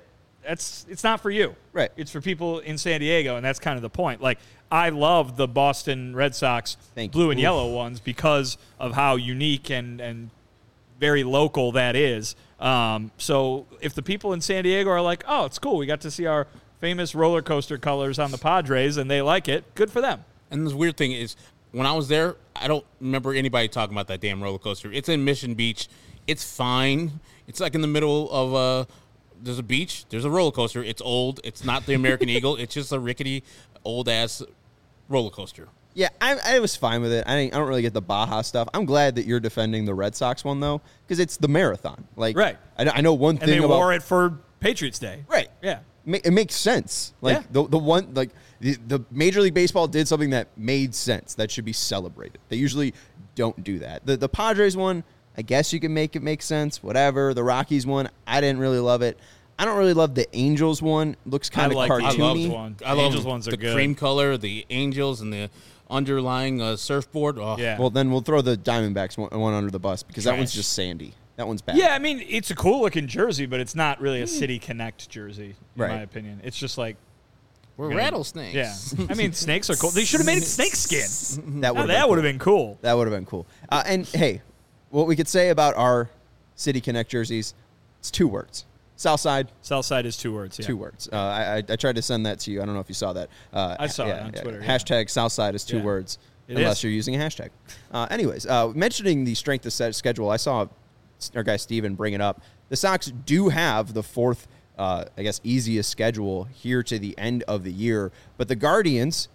that's it's not for you. Right. It's for people in San Diego, and that's kind of the point. Like, I love the Boston Red Sox Thank blue you. and Oof. yellow ones because of how unique and, and very local that is. Um, so if the people in San Diego are like, oh, it's cool, we got to see our famous roller coaster colors on the Padres, and they like it, good for them. And the weird thing is, when I was there, I don't remember anybody talking about that damn roller coaster. It's in Mission Beach. It's fine. It's like in the middle of a, there's a beach, there's a roller coaster. It's old. It's not the American Eagle. It's just a rickety, old-ass roller coaster. Yeah, I, I was fine with it. I, I don't really get the Baja stuff. I'm glad that you're defending the Red Sox one, though, because it's the marathon. Like, Right. I, I know one And thing they about wore it for Patriots Day. right. Yeah. Ma- It makes sense. Like Yeah. the the one like the, the Major League Baseball did something that made sense that should be celebrated. They usually don't do that. The the Padres one, I guess you can make it make sense. Whatever. The Rockies one, I didn't really love it. I don't really love the Angels one. Looks kind of I like the cartoony. Angels one. I love Angels ones are the good. cream color, the Angels, and the underlying uh, surfboard. Oh, Yeah. Well, then we'll throw the Diamondbacks one, one under the bus because that one's Trash. just sandy. That one's bad. Yeah, I mean, it's a cool looking jersey, but it's not really a City Connect jersey, in Right. my opinion. It's just like, we're Yeah. rattlesnakes. yeah. I mean, snakes are cool. They should have made it snake skin. that Now, would that would have been cool. That would have been cool. Uh, and hey, what we could say about our City Connect jerseys, it's two words. Southside, Southside is two words. Yeah. two words. Uh, I, I I tried to send that to you. I don't know if you saw that. Uh, I saw it on Twitter, yeah. Hashtag Southside is two Yeah. words, It unless is. you're using a hashtag. Uh, anyways, uh, mentioning the strength of set schedule, I saw our guy Steven bring it up. The Sox do have the fourth, uh, I guess, easiest schedule here to the end of the year, but the Guardians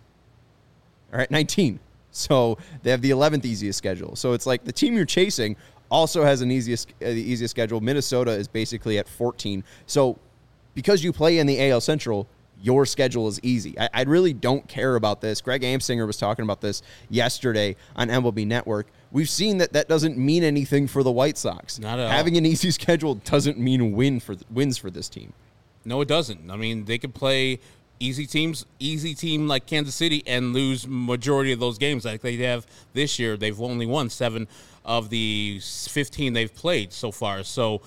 are at nineteen. So they have the eleventh easiest schedule. So it's like the team you're chasing also has an easiest uh, the easiest schedule. Minnesota is basically at fourteen. So because you play in the A L Central, your schedule is easy. I, I really don't care about this. Greg Amsinger was talking about this yesterday on M L B Network. We've seen that that doesn't mean anything for the White Sox. Not at all. Having an easy schedule doesn't mean win for wins for this team. No, it doesn't. I mean, they could play easy teams, easy team like Kansas City, and lose majority of those games like they have this year. They've only won seven of the fifteen they've played so far. So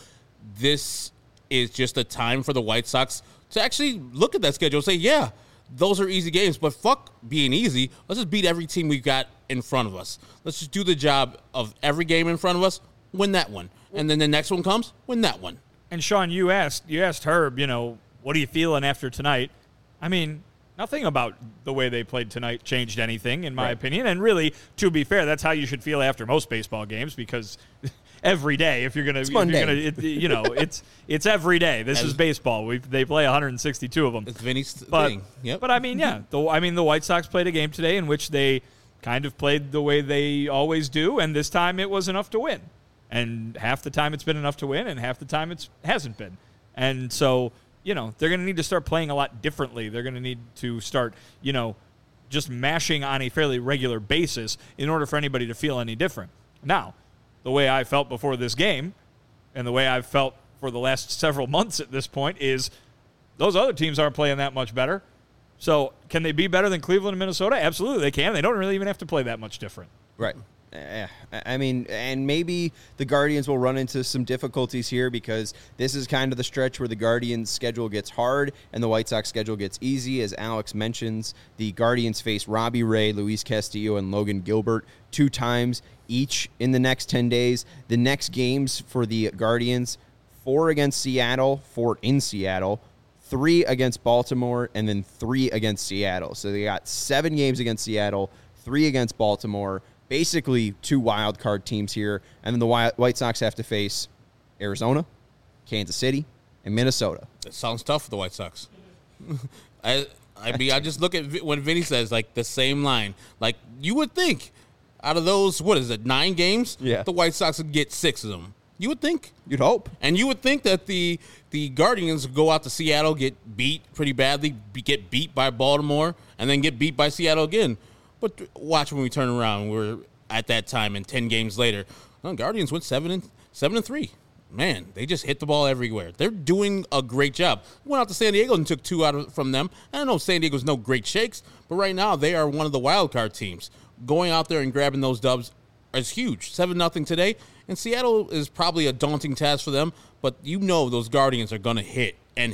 this is just a time for the White Sox to actually look at that schedule and say, yeah, those are easy games, but fuck being easy. Let's just beat every team we've got in front of us. Let's just do the job of every game in front of us, win that one. And then the next one comes, win that one. And Sean, you asked you asked Herb, you know, what are you feeling after tonight? I mean, nothing about the way they played tonight changed anything, in my Right. opinion. And really, to be fair, that's how you should feel after most baseball games, because every day, if you're gonna, if you're Monday. gonna, it, you know, it's it's every day. This As- is baseball. We they play one hundred sixty-two of them. It's Vinny's But thing. Yep. but I mean, yeah. The, I mean, the White Sox played a game today in which they kind of played the way they always do, and this time it was enough to win. And half the time it's been enough to win, and half the time it hasn't been. And so, you know, they're going to need to start playing a lot differently. They're going to need to start, you know, just mashing on a fairly regular basis in order for anybody to feel any different. Now, the way I felt before this game and the way I've felt for the last several months at this point is those other teams aren't playing that much better. So can they be better than Cleveland and Minnesota? Absolutely they can. They don't really even have to play that much different. Right. Eh, I mean, and maybe the Guardians will run into some difficulties here because this is kind of the stretch where the Guardians' schedule gets hard and the White Sox schedule gets easy. As Alex mentions, the Guardians face Robbie Ray, Luis Castillo, and Logan Gilbert two times each in the next ten days. The next games for the Guardians, four against Seattle, four in Seattle, three against Baltimore, and then three against Seattle. So they got seven games against Seattle, three against Baltimore, basically two wild card teams here. And then the White Sox have to face Arizona, Kansas City, and Minnesota. It sounds tough for the White Sox. I I mean, I just look at Vi- when Vinny says, like, the same line. Like, you would think out of those, what is it, nine games? Yeah. The White Sox would get six of them. You would think. You'd hope. And you would think that the the Guardians would go out to Seattle, get beat pretty badly, be, get beat by Baltimore, and then get beat by Seattle again. But watch when we turn around. We're at that time, and ten games later, well, Guardians went seven and seven and three. Man, they just hit the ball everywhere. They're doing a great job. Went out to San Diego and took two out of, from them. I know San Diego's no great shakes, but right now they are one of the wild card teams. Going out there and grabbing those dubs is huge. Seven nothing today, and Seattle is probably a daunting task for them. But you know those Guardians are going to hit and hit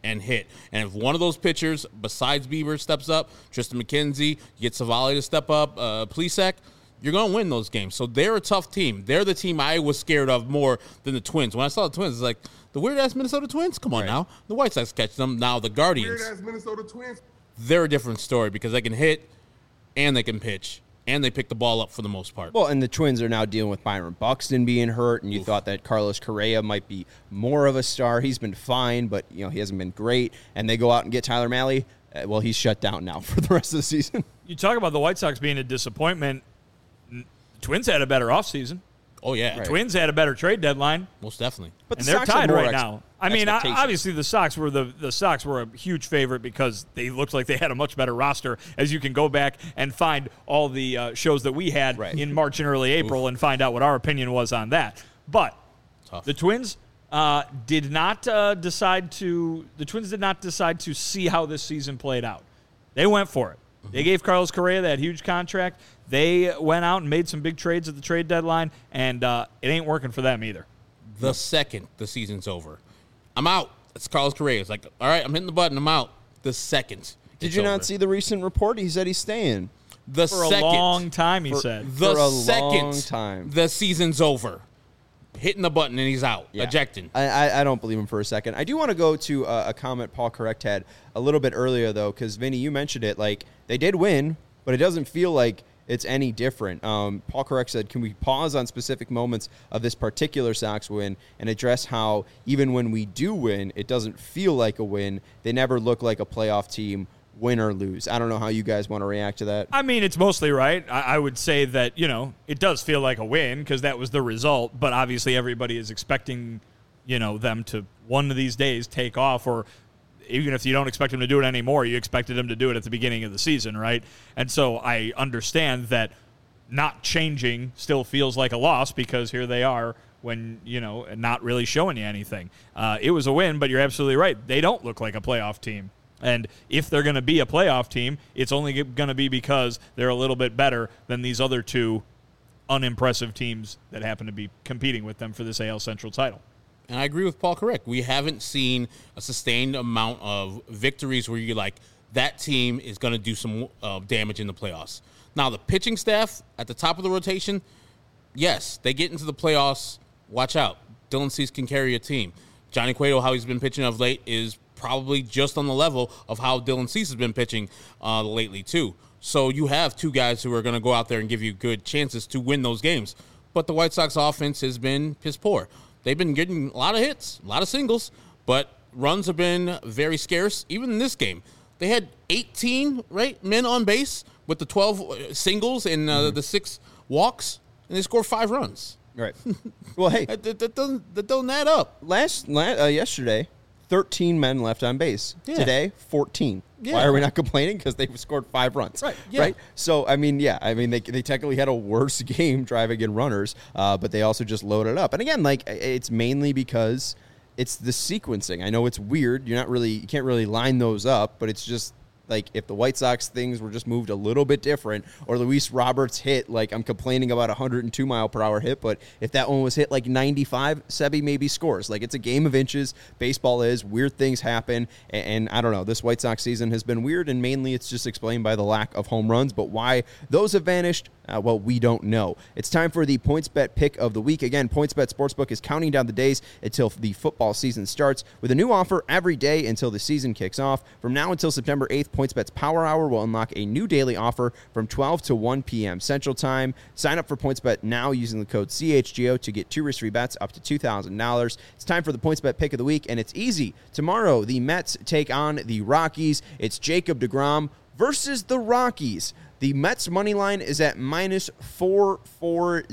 and hit. And if one of those pitchers, besides Bieber, steps up, Tristan McKenzie, you get Savali to step up, uh, Plesac, you're going to win those games. So they're a tough team. They're the team I was scared of more than the Twins. When I saw the Twins, it's like, the weird-ass Minnesota Twins? Come on right. now. The White Sox catch them. Now the Guardians. Weird-ass Minnesota Twins. They're a different story because they can hit and they can pitch. And they pick the ball up for the most part. Well, and the Twins are now dealing with Byron Buxton being hurt, and you Oof. thought that Carlos Correa might be more of a star. He's been fine, but you know he hasn't been great. And they go out and get Tyler Mahle. Uh, well, he's shut down now for the rest of the season. You talk about the White Sox being a disappointment. The Twins had a better offseason. Oh, yeah. The right. Twins had a better trade deadline. Most definitely. But and the they're tied right ex- now. I mean, obviously the Sox were the the Sox were a huge favorite because they looked like they had a much better roster. As you can go back and find all the uh, shows that we had right. in March and early April Oof. and find out what our opinion was on that. But Tough. the Twins uh, did not uh, decide to. The Twins did not decide to see how this season played out. They went for it. Mm-hmm. They gave Carlos Correa that huge contract. They went out and made some big trades at the trade deadline, and uh, it ain't working for them either. The second the season's over, I'm out. It's Carlos Correa. It's like, all right, I'm hitting the button. I'm out. The second. Did you over. not see the recent report? He said he's staying. The for second, a long time, he for, said. The for a second long time. the season's over. Hitting the button and he's out. Yeah. Ejecting. I, I, I don't believe him for a second. I do want to go to a, a comment Paul Correct had a little bit earlier, though, because, Vinny, you mentioned it. Like, they did win, but it doesn't feel like it's any different. Um, Paul Correct said, can we pause on specific moments of this particular Sox win and address how even when we do win, it doesn't feel like a win. They never look like a playoff team, win or lose. I don't know how you guys want to react to that. I mean, it's mostly right. I, I would say that, you know, it does feel like a win because that was the result, but obviously everybody is expecting, you know, them to one of these days take off, or even if you don't expect them to do it anymore, you expected them to do it at the beginning of the season, right? And so I understand that not changing still feels like a loss because here they are when, you know, not really showing you anything. Uh, it was a win, but you're absolutely right. They don't look like a playoff team. And if they're going to be a playoff team, it's only going to be because they're a little bit better than these other two unimpressive teams that happen to be competing with them for this A L Central title. And I agree with Paul Correct. We haven't seen a sustained amount of victories where you're like, that team is going to do some uh, damage in the playoffs. Now, the pitching staff at the top of the rotation, yes, they get into the playoffs. Watch out. Dylan Cease can carry a team. Johnny Cueto, how he's been pitching of late, is probably just on the level of how Dylan Cease has been pitching uh, lately, too. So you have two guys who are going to go out there and give you good chances to win those games. But the White Sox offense has been piss poor. They've been getting a lot of hits, a lot of singles, but runs have been very scarce. Even in this game, they had eighteen right men on base with the twelve singles and uh, mm-hmm. the six walks, and they scored five runs. Right. Well, hey, that, that, that doesn't that don't add up. Last, last uh, yesterday, thirteen men left on base. Yeah. Today, fourteen. Yeah. Why are we not complaining? Because they've scored five runs. Right. Yeah. Right. So, I mean, yeah. I mean, they they technically had a worse game driving in runners, uh, but they also just loaded up. And again, like, it's mainly because it's the sequencing. I know it's weird. You're not really, you can't really line those up, but it's just like if the White Sox things were just moved a little bit different, or Luis Roberts hit, like I'm complaining about a one hundred two mile per hour hit, but if that one was hit like ninety-five, Sebi maybe scores. Like it's a game of inches. Baseball is. Weird things happen. And, and I don't know. This White Sox season has been weird, and mainly it's just explained by the lack of home runs. But why those have vanished, uh, well, we don't know. It's time for the PointsBet pick of the week. Again, PointsBet Sportsbook is counting down the days until the football season starts with a new offer every day until the season kicks off. From now until September eighth, PointsBet's Power Hour will unlock a new daily offer from twelve to one p.m. Central Time. Sign up for PointsBet now using the code C H G O to get two risk-free bets up to two thousand dollars. It's time for the PointsBet pick of the week, and it's easy. Tomorrow, the Mets take on the Rockies. It's Jacob deGrom versus the Rockies. The Mets' money line is at minus four forty.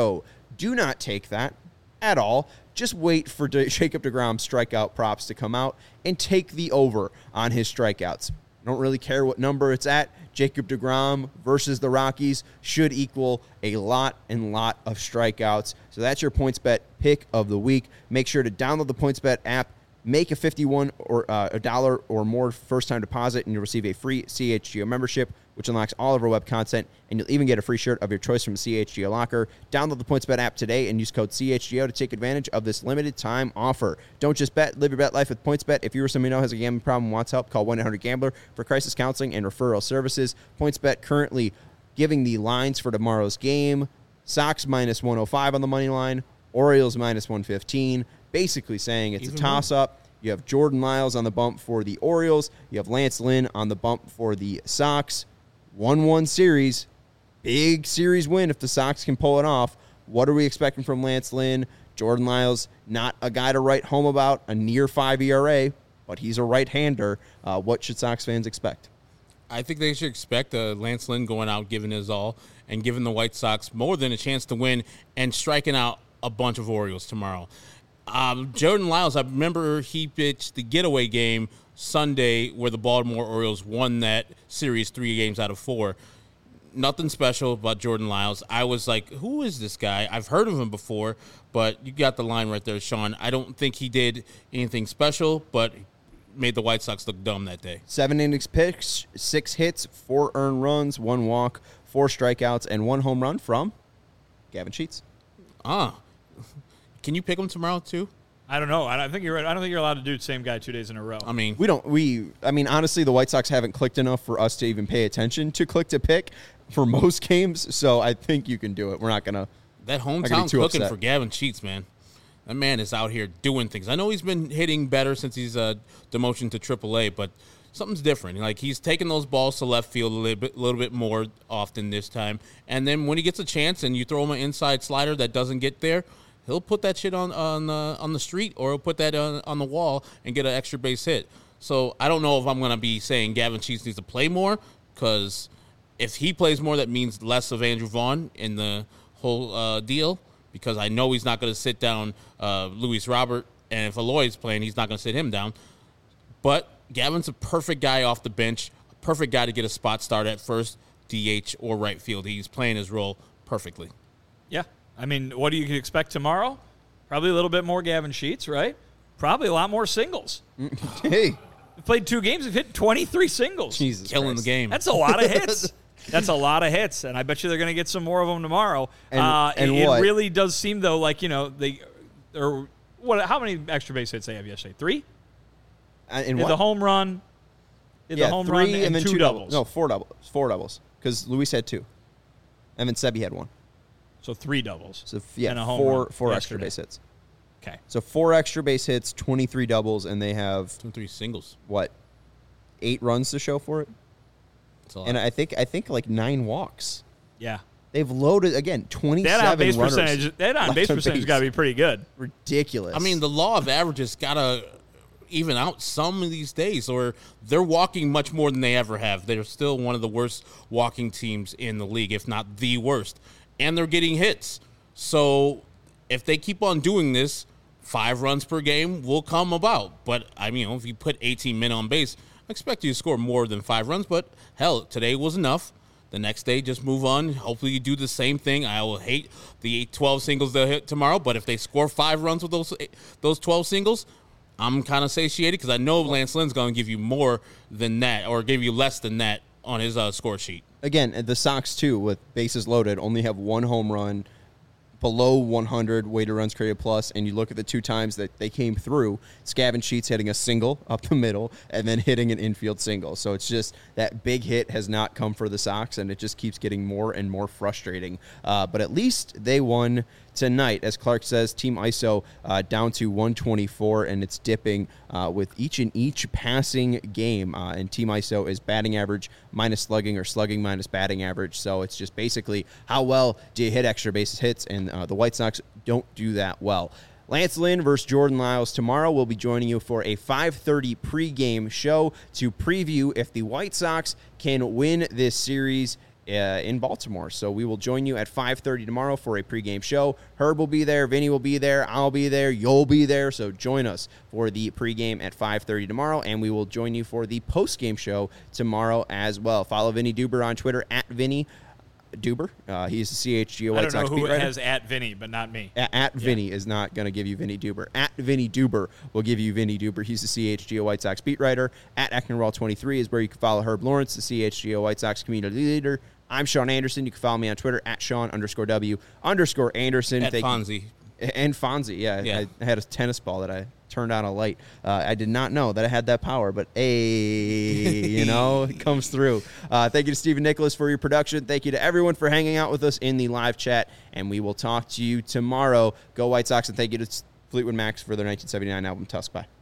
Do not take that at all. Just wait for De- Jacob deGrom's strikeout props to come out and take the over on his strikeouts. I don't really care what number it's at. Jacob deGrom versus the Rockies should equal a lot and lot of strikeouts. So that's your PointsBet pick of the week. Make sure to download the PointsBet app Make a fifty-one or uh, a dollar or more first-time deposit, and you'll receive a free C H G O membership, which unlocks all of our web content, and you'll even get a free shirt of your choice from C H G O Locker. Download the PointsBet app today and use code C H G O to take advantage of this limited-time offer. Don't just bet, live your bet life with PointsBet. If you or someone you know has a gambling problem and wants help, call one eight hundred gambler for crisis counseling and referral services. PointsBet currently giving the lines for tomorrow's game. Sox minus one oh five on the money line, Orioles minus one fifteen. Basically saying it's Even a toss-up. You have Jordan Lyles on the bump for the Orioles. You have Lance Lynn on the bump for the Sox. one one series. Big series win if the Sox can pull it off. What are we expecting from Lance Lynn? Jordan Lyles, not a guy to write home about, a near five E R A, but he's a right-hander. Uh, what should Sox fans expect? I think they should expect uh, Lance Lynn going out, giving his all, and giving the White Sox more than a chance to win and striking out a bunch of Orioles tomorrow. Um, Jordan Lyles, I remember he pitched the getaway game Sunday where the Baltimore Orioles won that series three games out of four. Nothing special about Jordan Lyles. I was like, who is this guy? I've heard of him before, but you got the line right there, Sean. I don't think he did anything special, but made the White Sox look dumb that day. Seven innings pitched, six hits, four earned runs, one walk, four strikeouts, and one home run from Gavin Sheets. Ah. Can you pick him tomorrow too? I don't know. I don't think you're. I don't think you're allowed to do the same guy two days in a row. I mean, we don't. We. I mean, honestly, the White Sox haven't clicked enough for us to even pay attention to click to pick for most games. So I think you can do it. We're not gonna. That hometown cooking upset. for Gavin Sheets, man. That man is out here doing things. I know he's been hitting better since he's uh, demotion to triple A, but something's different. Like, he's taking those balls to left field a little bit, little bit more often this time. And then when he gets a chance and you throw him an inside slider that doesn't get there, he'll put that shit on on the on the street, or he'll put that on, on the wall and get an extra base hit. So I don't know if I'm going to be saying Gavin Sheets needs to play more, because if he plays more, that means less of Andrew Vaughn in the whole uh, deal, because I know he's not going to sit down uh, Luis Robert, and if Eloy's playing, he's not going to sit him down. But Gavin's a perfect guy off the bench, a perfect guy to get a spot start at first, D H, or right field. He's playing his role perfectly. Yeah. I mean, what do you expect tomorrow? Probably a little bit more Gavin Sheets, right? Probably a lot more singles. Hey. We've played two games. We've hit twenty-three singles. Jesus Killing Christ. the game. That's a lot of hits. That's a lot of hits, and I bet you they're going to get some more of them tomorrow. And, uh, and it, what? it really does seem, though, like, you know, they or what? How many extra base hits they have yesterday? Three? Uh, in Did what? the home run, did yeah, the home three run and, and, then two, two doubles. No, four doubles. Four doubles. Because Luis had two. And then Sebi had one. So three doubles. So, yeah, and a home four, run four extra yesterday. base hits. Okay. So four extra base hits, twenty-three doubles, and they have, Two and three singles. what, eight runs to show for it? That's a lot. And I think I think like nine walks. Yeah. They've loaded, again, twenty-seven That on base runners percentage, that on left base on percentage base. got to be pretty good. Ridiculous. I mean, the law of averages got to even out some of these days, or they're walking much more than they ever have. They're still one of the worst walking teams in the league, if not the worst. And they're getting hits. So if they keep on doing this, five runs per game will come about. But, I mean, if you put eighteen men on base, I expect you to score more than five runs. But, hell, today was enough. The next day, just move on. Hopefully you do the same thing. I will hate the twelve singles they'll hit tomorrow, but if they score five runs with those those twelve singles, I'm kind of satiated, because I know Lance Lynn's going to give you more than that, or give you less than that on his uh, score sheet. Again, the Sox, too, with bases loaded, only have one home run below one hundred weighted runs created plus, and you look at the two times that they came through, it's Gavin Sheets hitting a single up the middle and then hitting an infield single. So it's just that big hit has not come for the Sox, and it just keeps getting more and more frustrating. Uh, but at least they won tonight. As Clark says, Team I S O uh, down to one twenty-four, and it's dipping uh, with each and each passing game. Uh, and Team I S O is batting average minus slugging, or slugging minus batting average. So it's just basically how well do you hit extra bases hits, and uh, the White Sox don't do that well. Lance Lynn versus Jordan Lyles tomorrow. We'll be joining you for a five thirty pregame show to preview if the White Sox can win this series Uh, in Baltimore. So we will join you at five thirty tomorrow for a pregame show. Herb will be there, Vinny will be there, I'll be there, you'll be there. So join us for the pregame at five thirty tomorrow, and we will join you for the postgame show tomorrow as well. Follow Vinny Duber on Twitter at Vinny Duber. Uh, he's the C H G O White I don't Sox know beat who writer. has at Vinny, but not me. At, at Vinny is not going to give you Vinny Duber. At Vinny Duber will give you Vinny Duber. He's the C H G O White Sox beat writer. At Ecknerwall twenty-three is where you can follow Herb Lawrence, the C H G O White Sox community leader. I'm Sean Anderson. You can follow me on Twitter at Sean underscore W underscore Anderson. At Thank Fonzie. You. And Fonzie, yeah. Yeah. I, I had a tennis ball that I turned on a light. Uh, I did not know that I had that power, but hey, you know, it comes through. Uh, thank you to Stephen Nicholas for your production. Thank you to everyone for hanging out with us in the live chat, and we will talk to you tomorrow. Go White Sox, and thank you to Fleetwood Mac for their nineteen seventy-nine album, Tusk. Bye.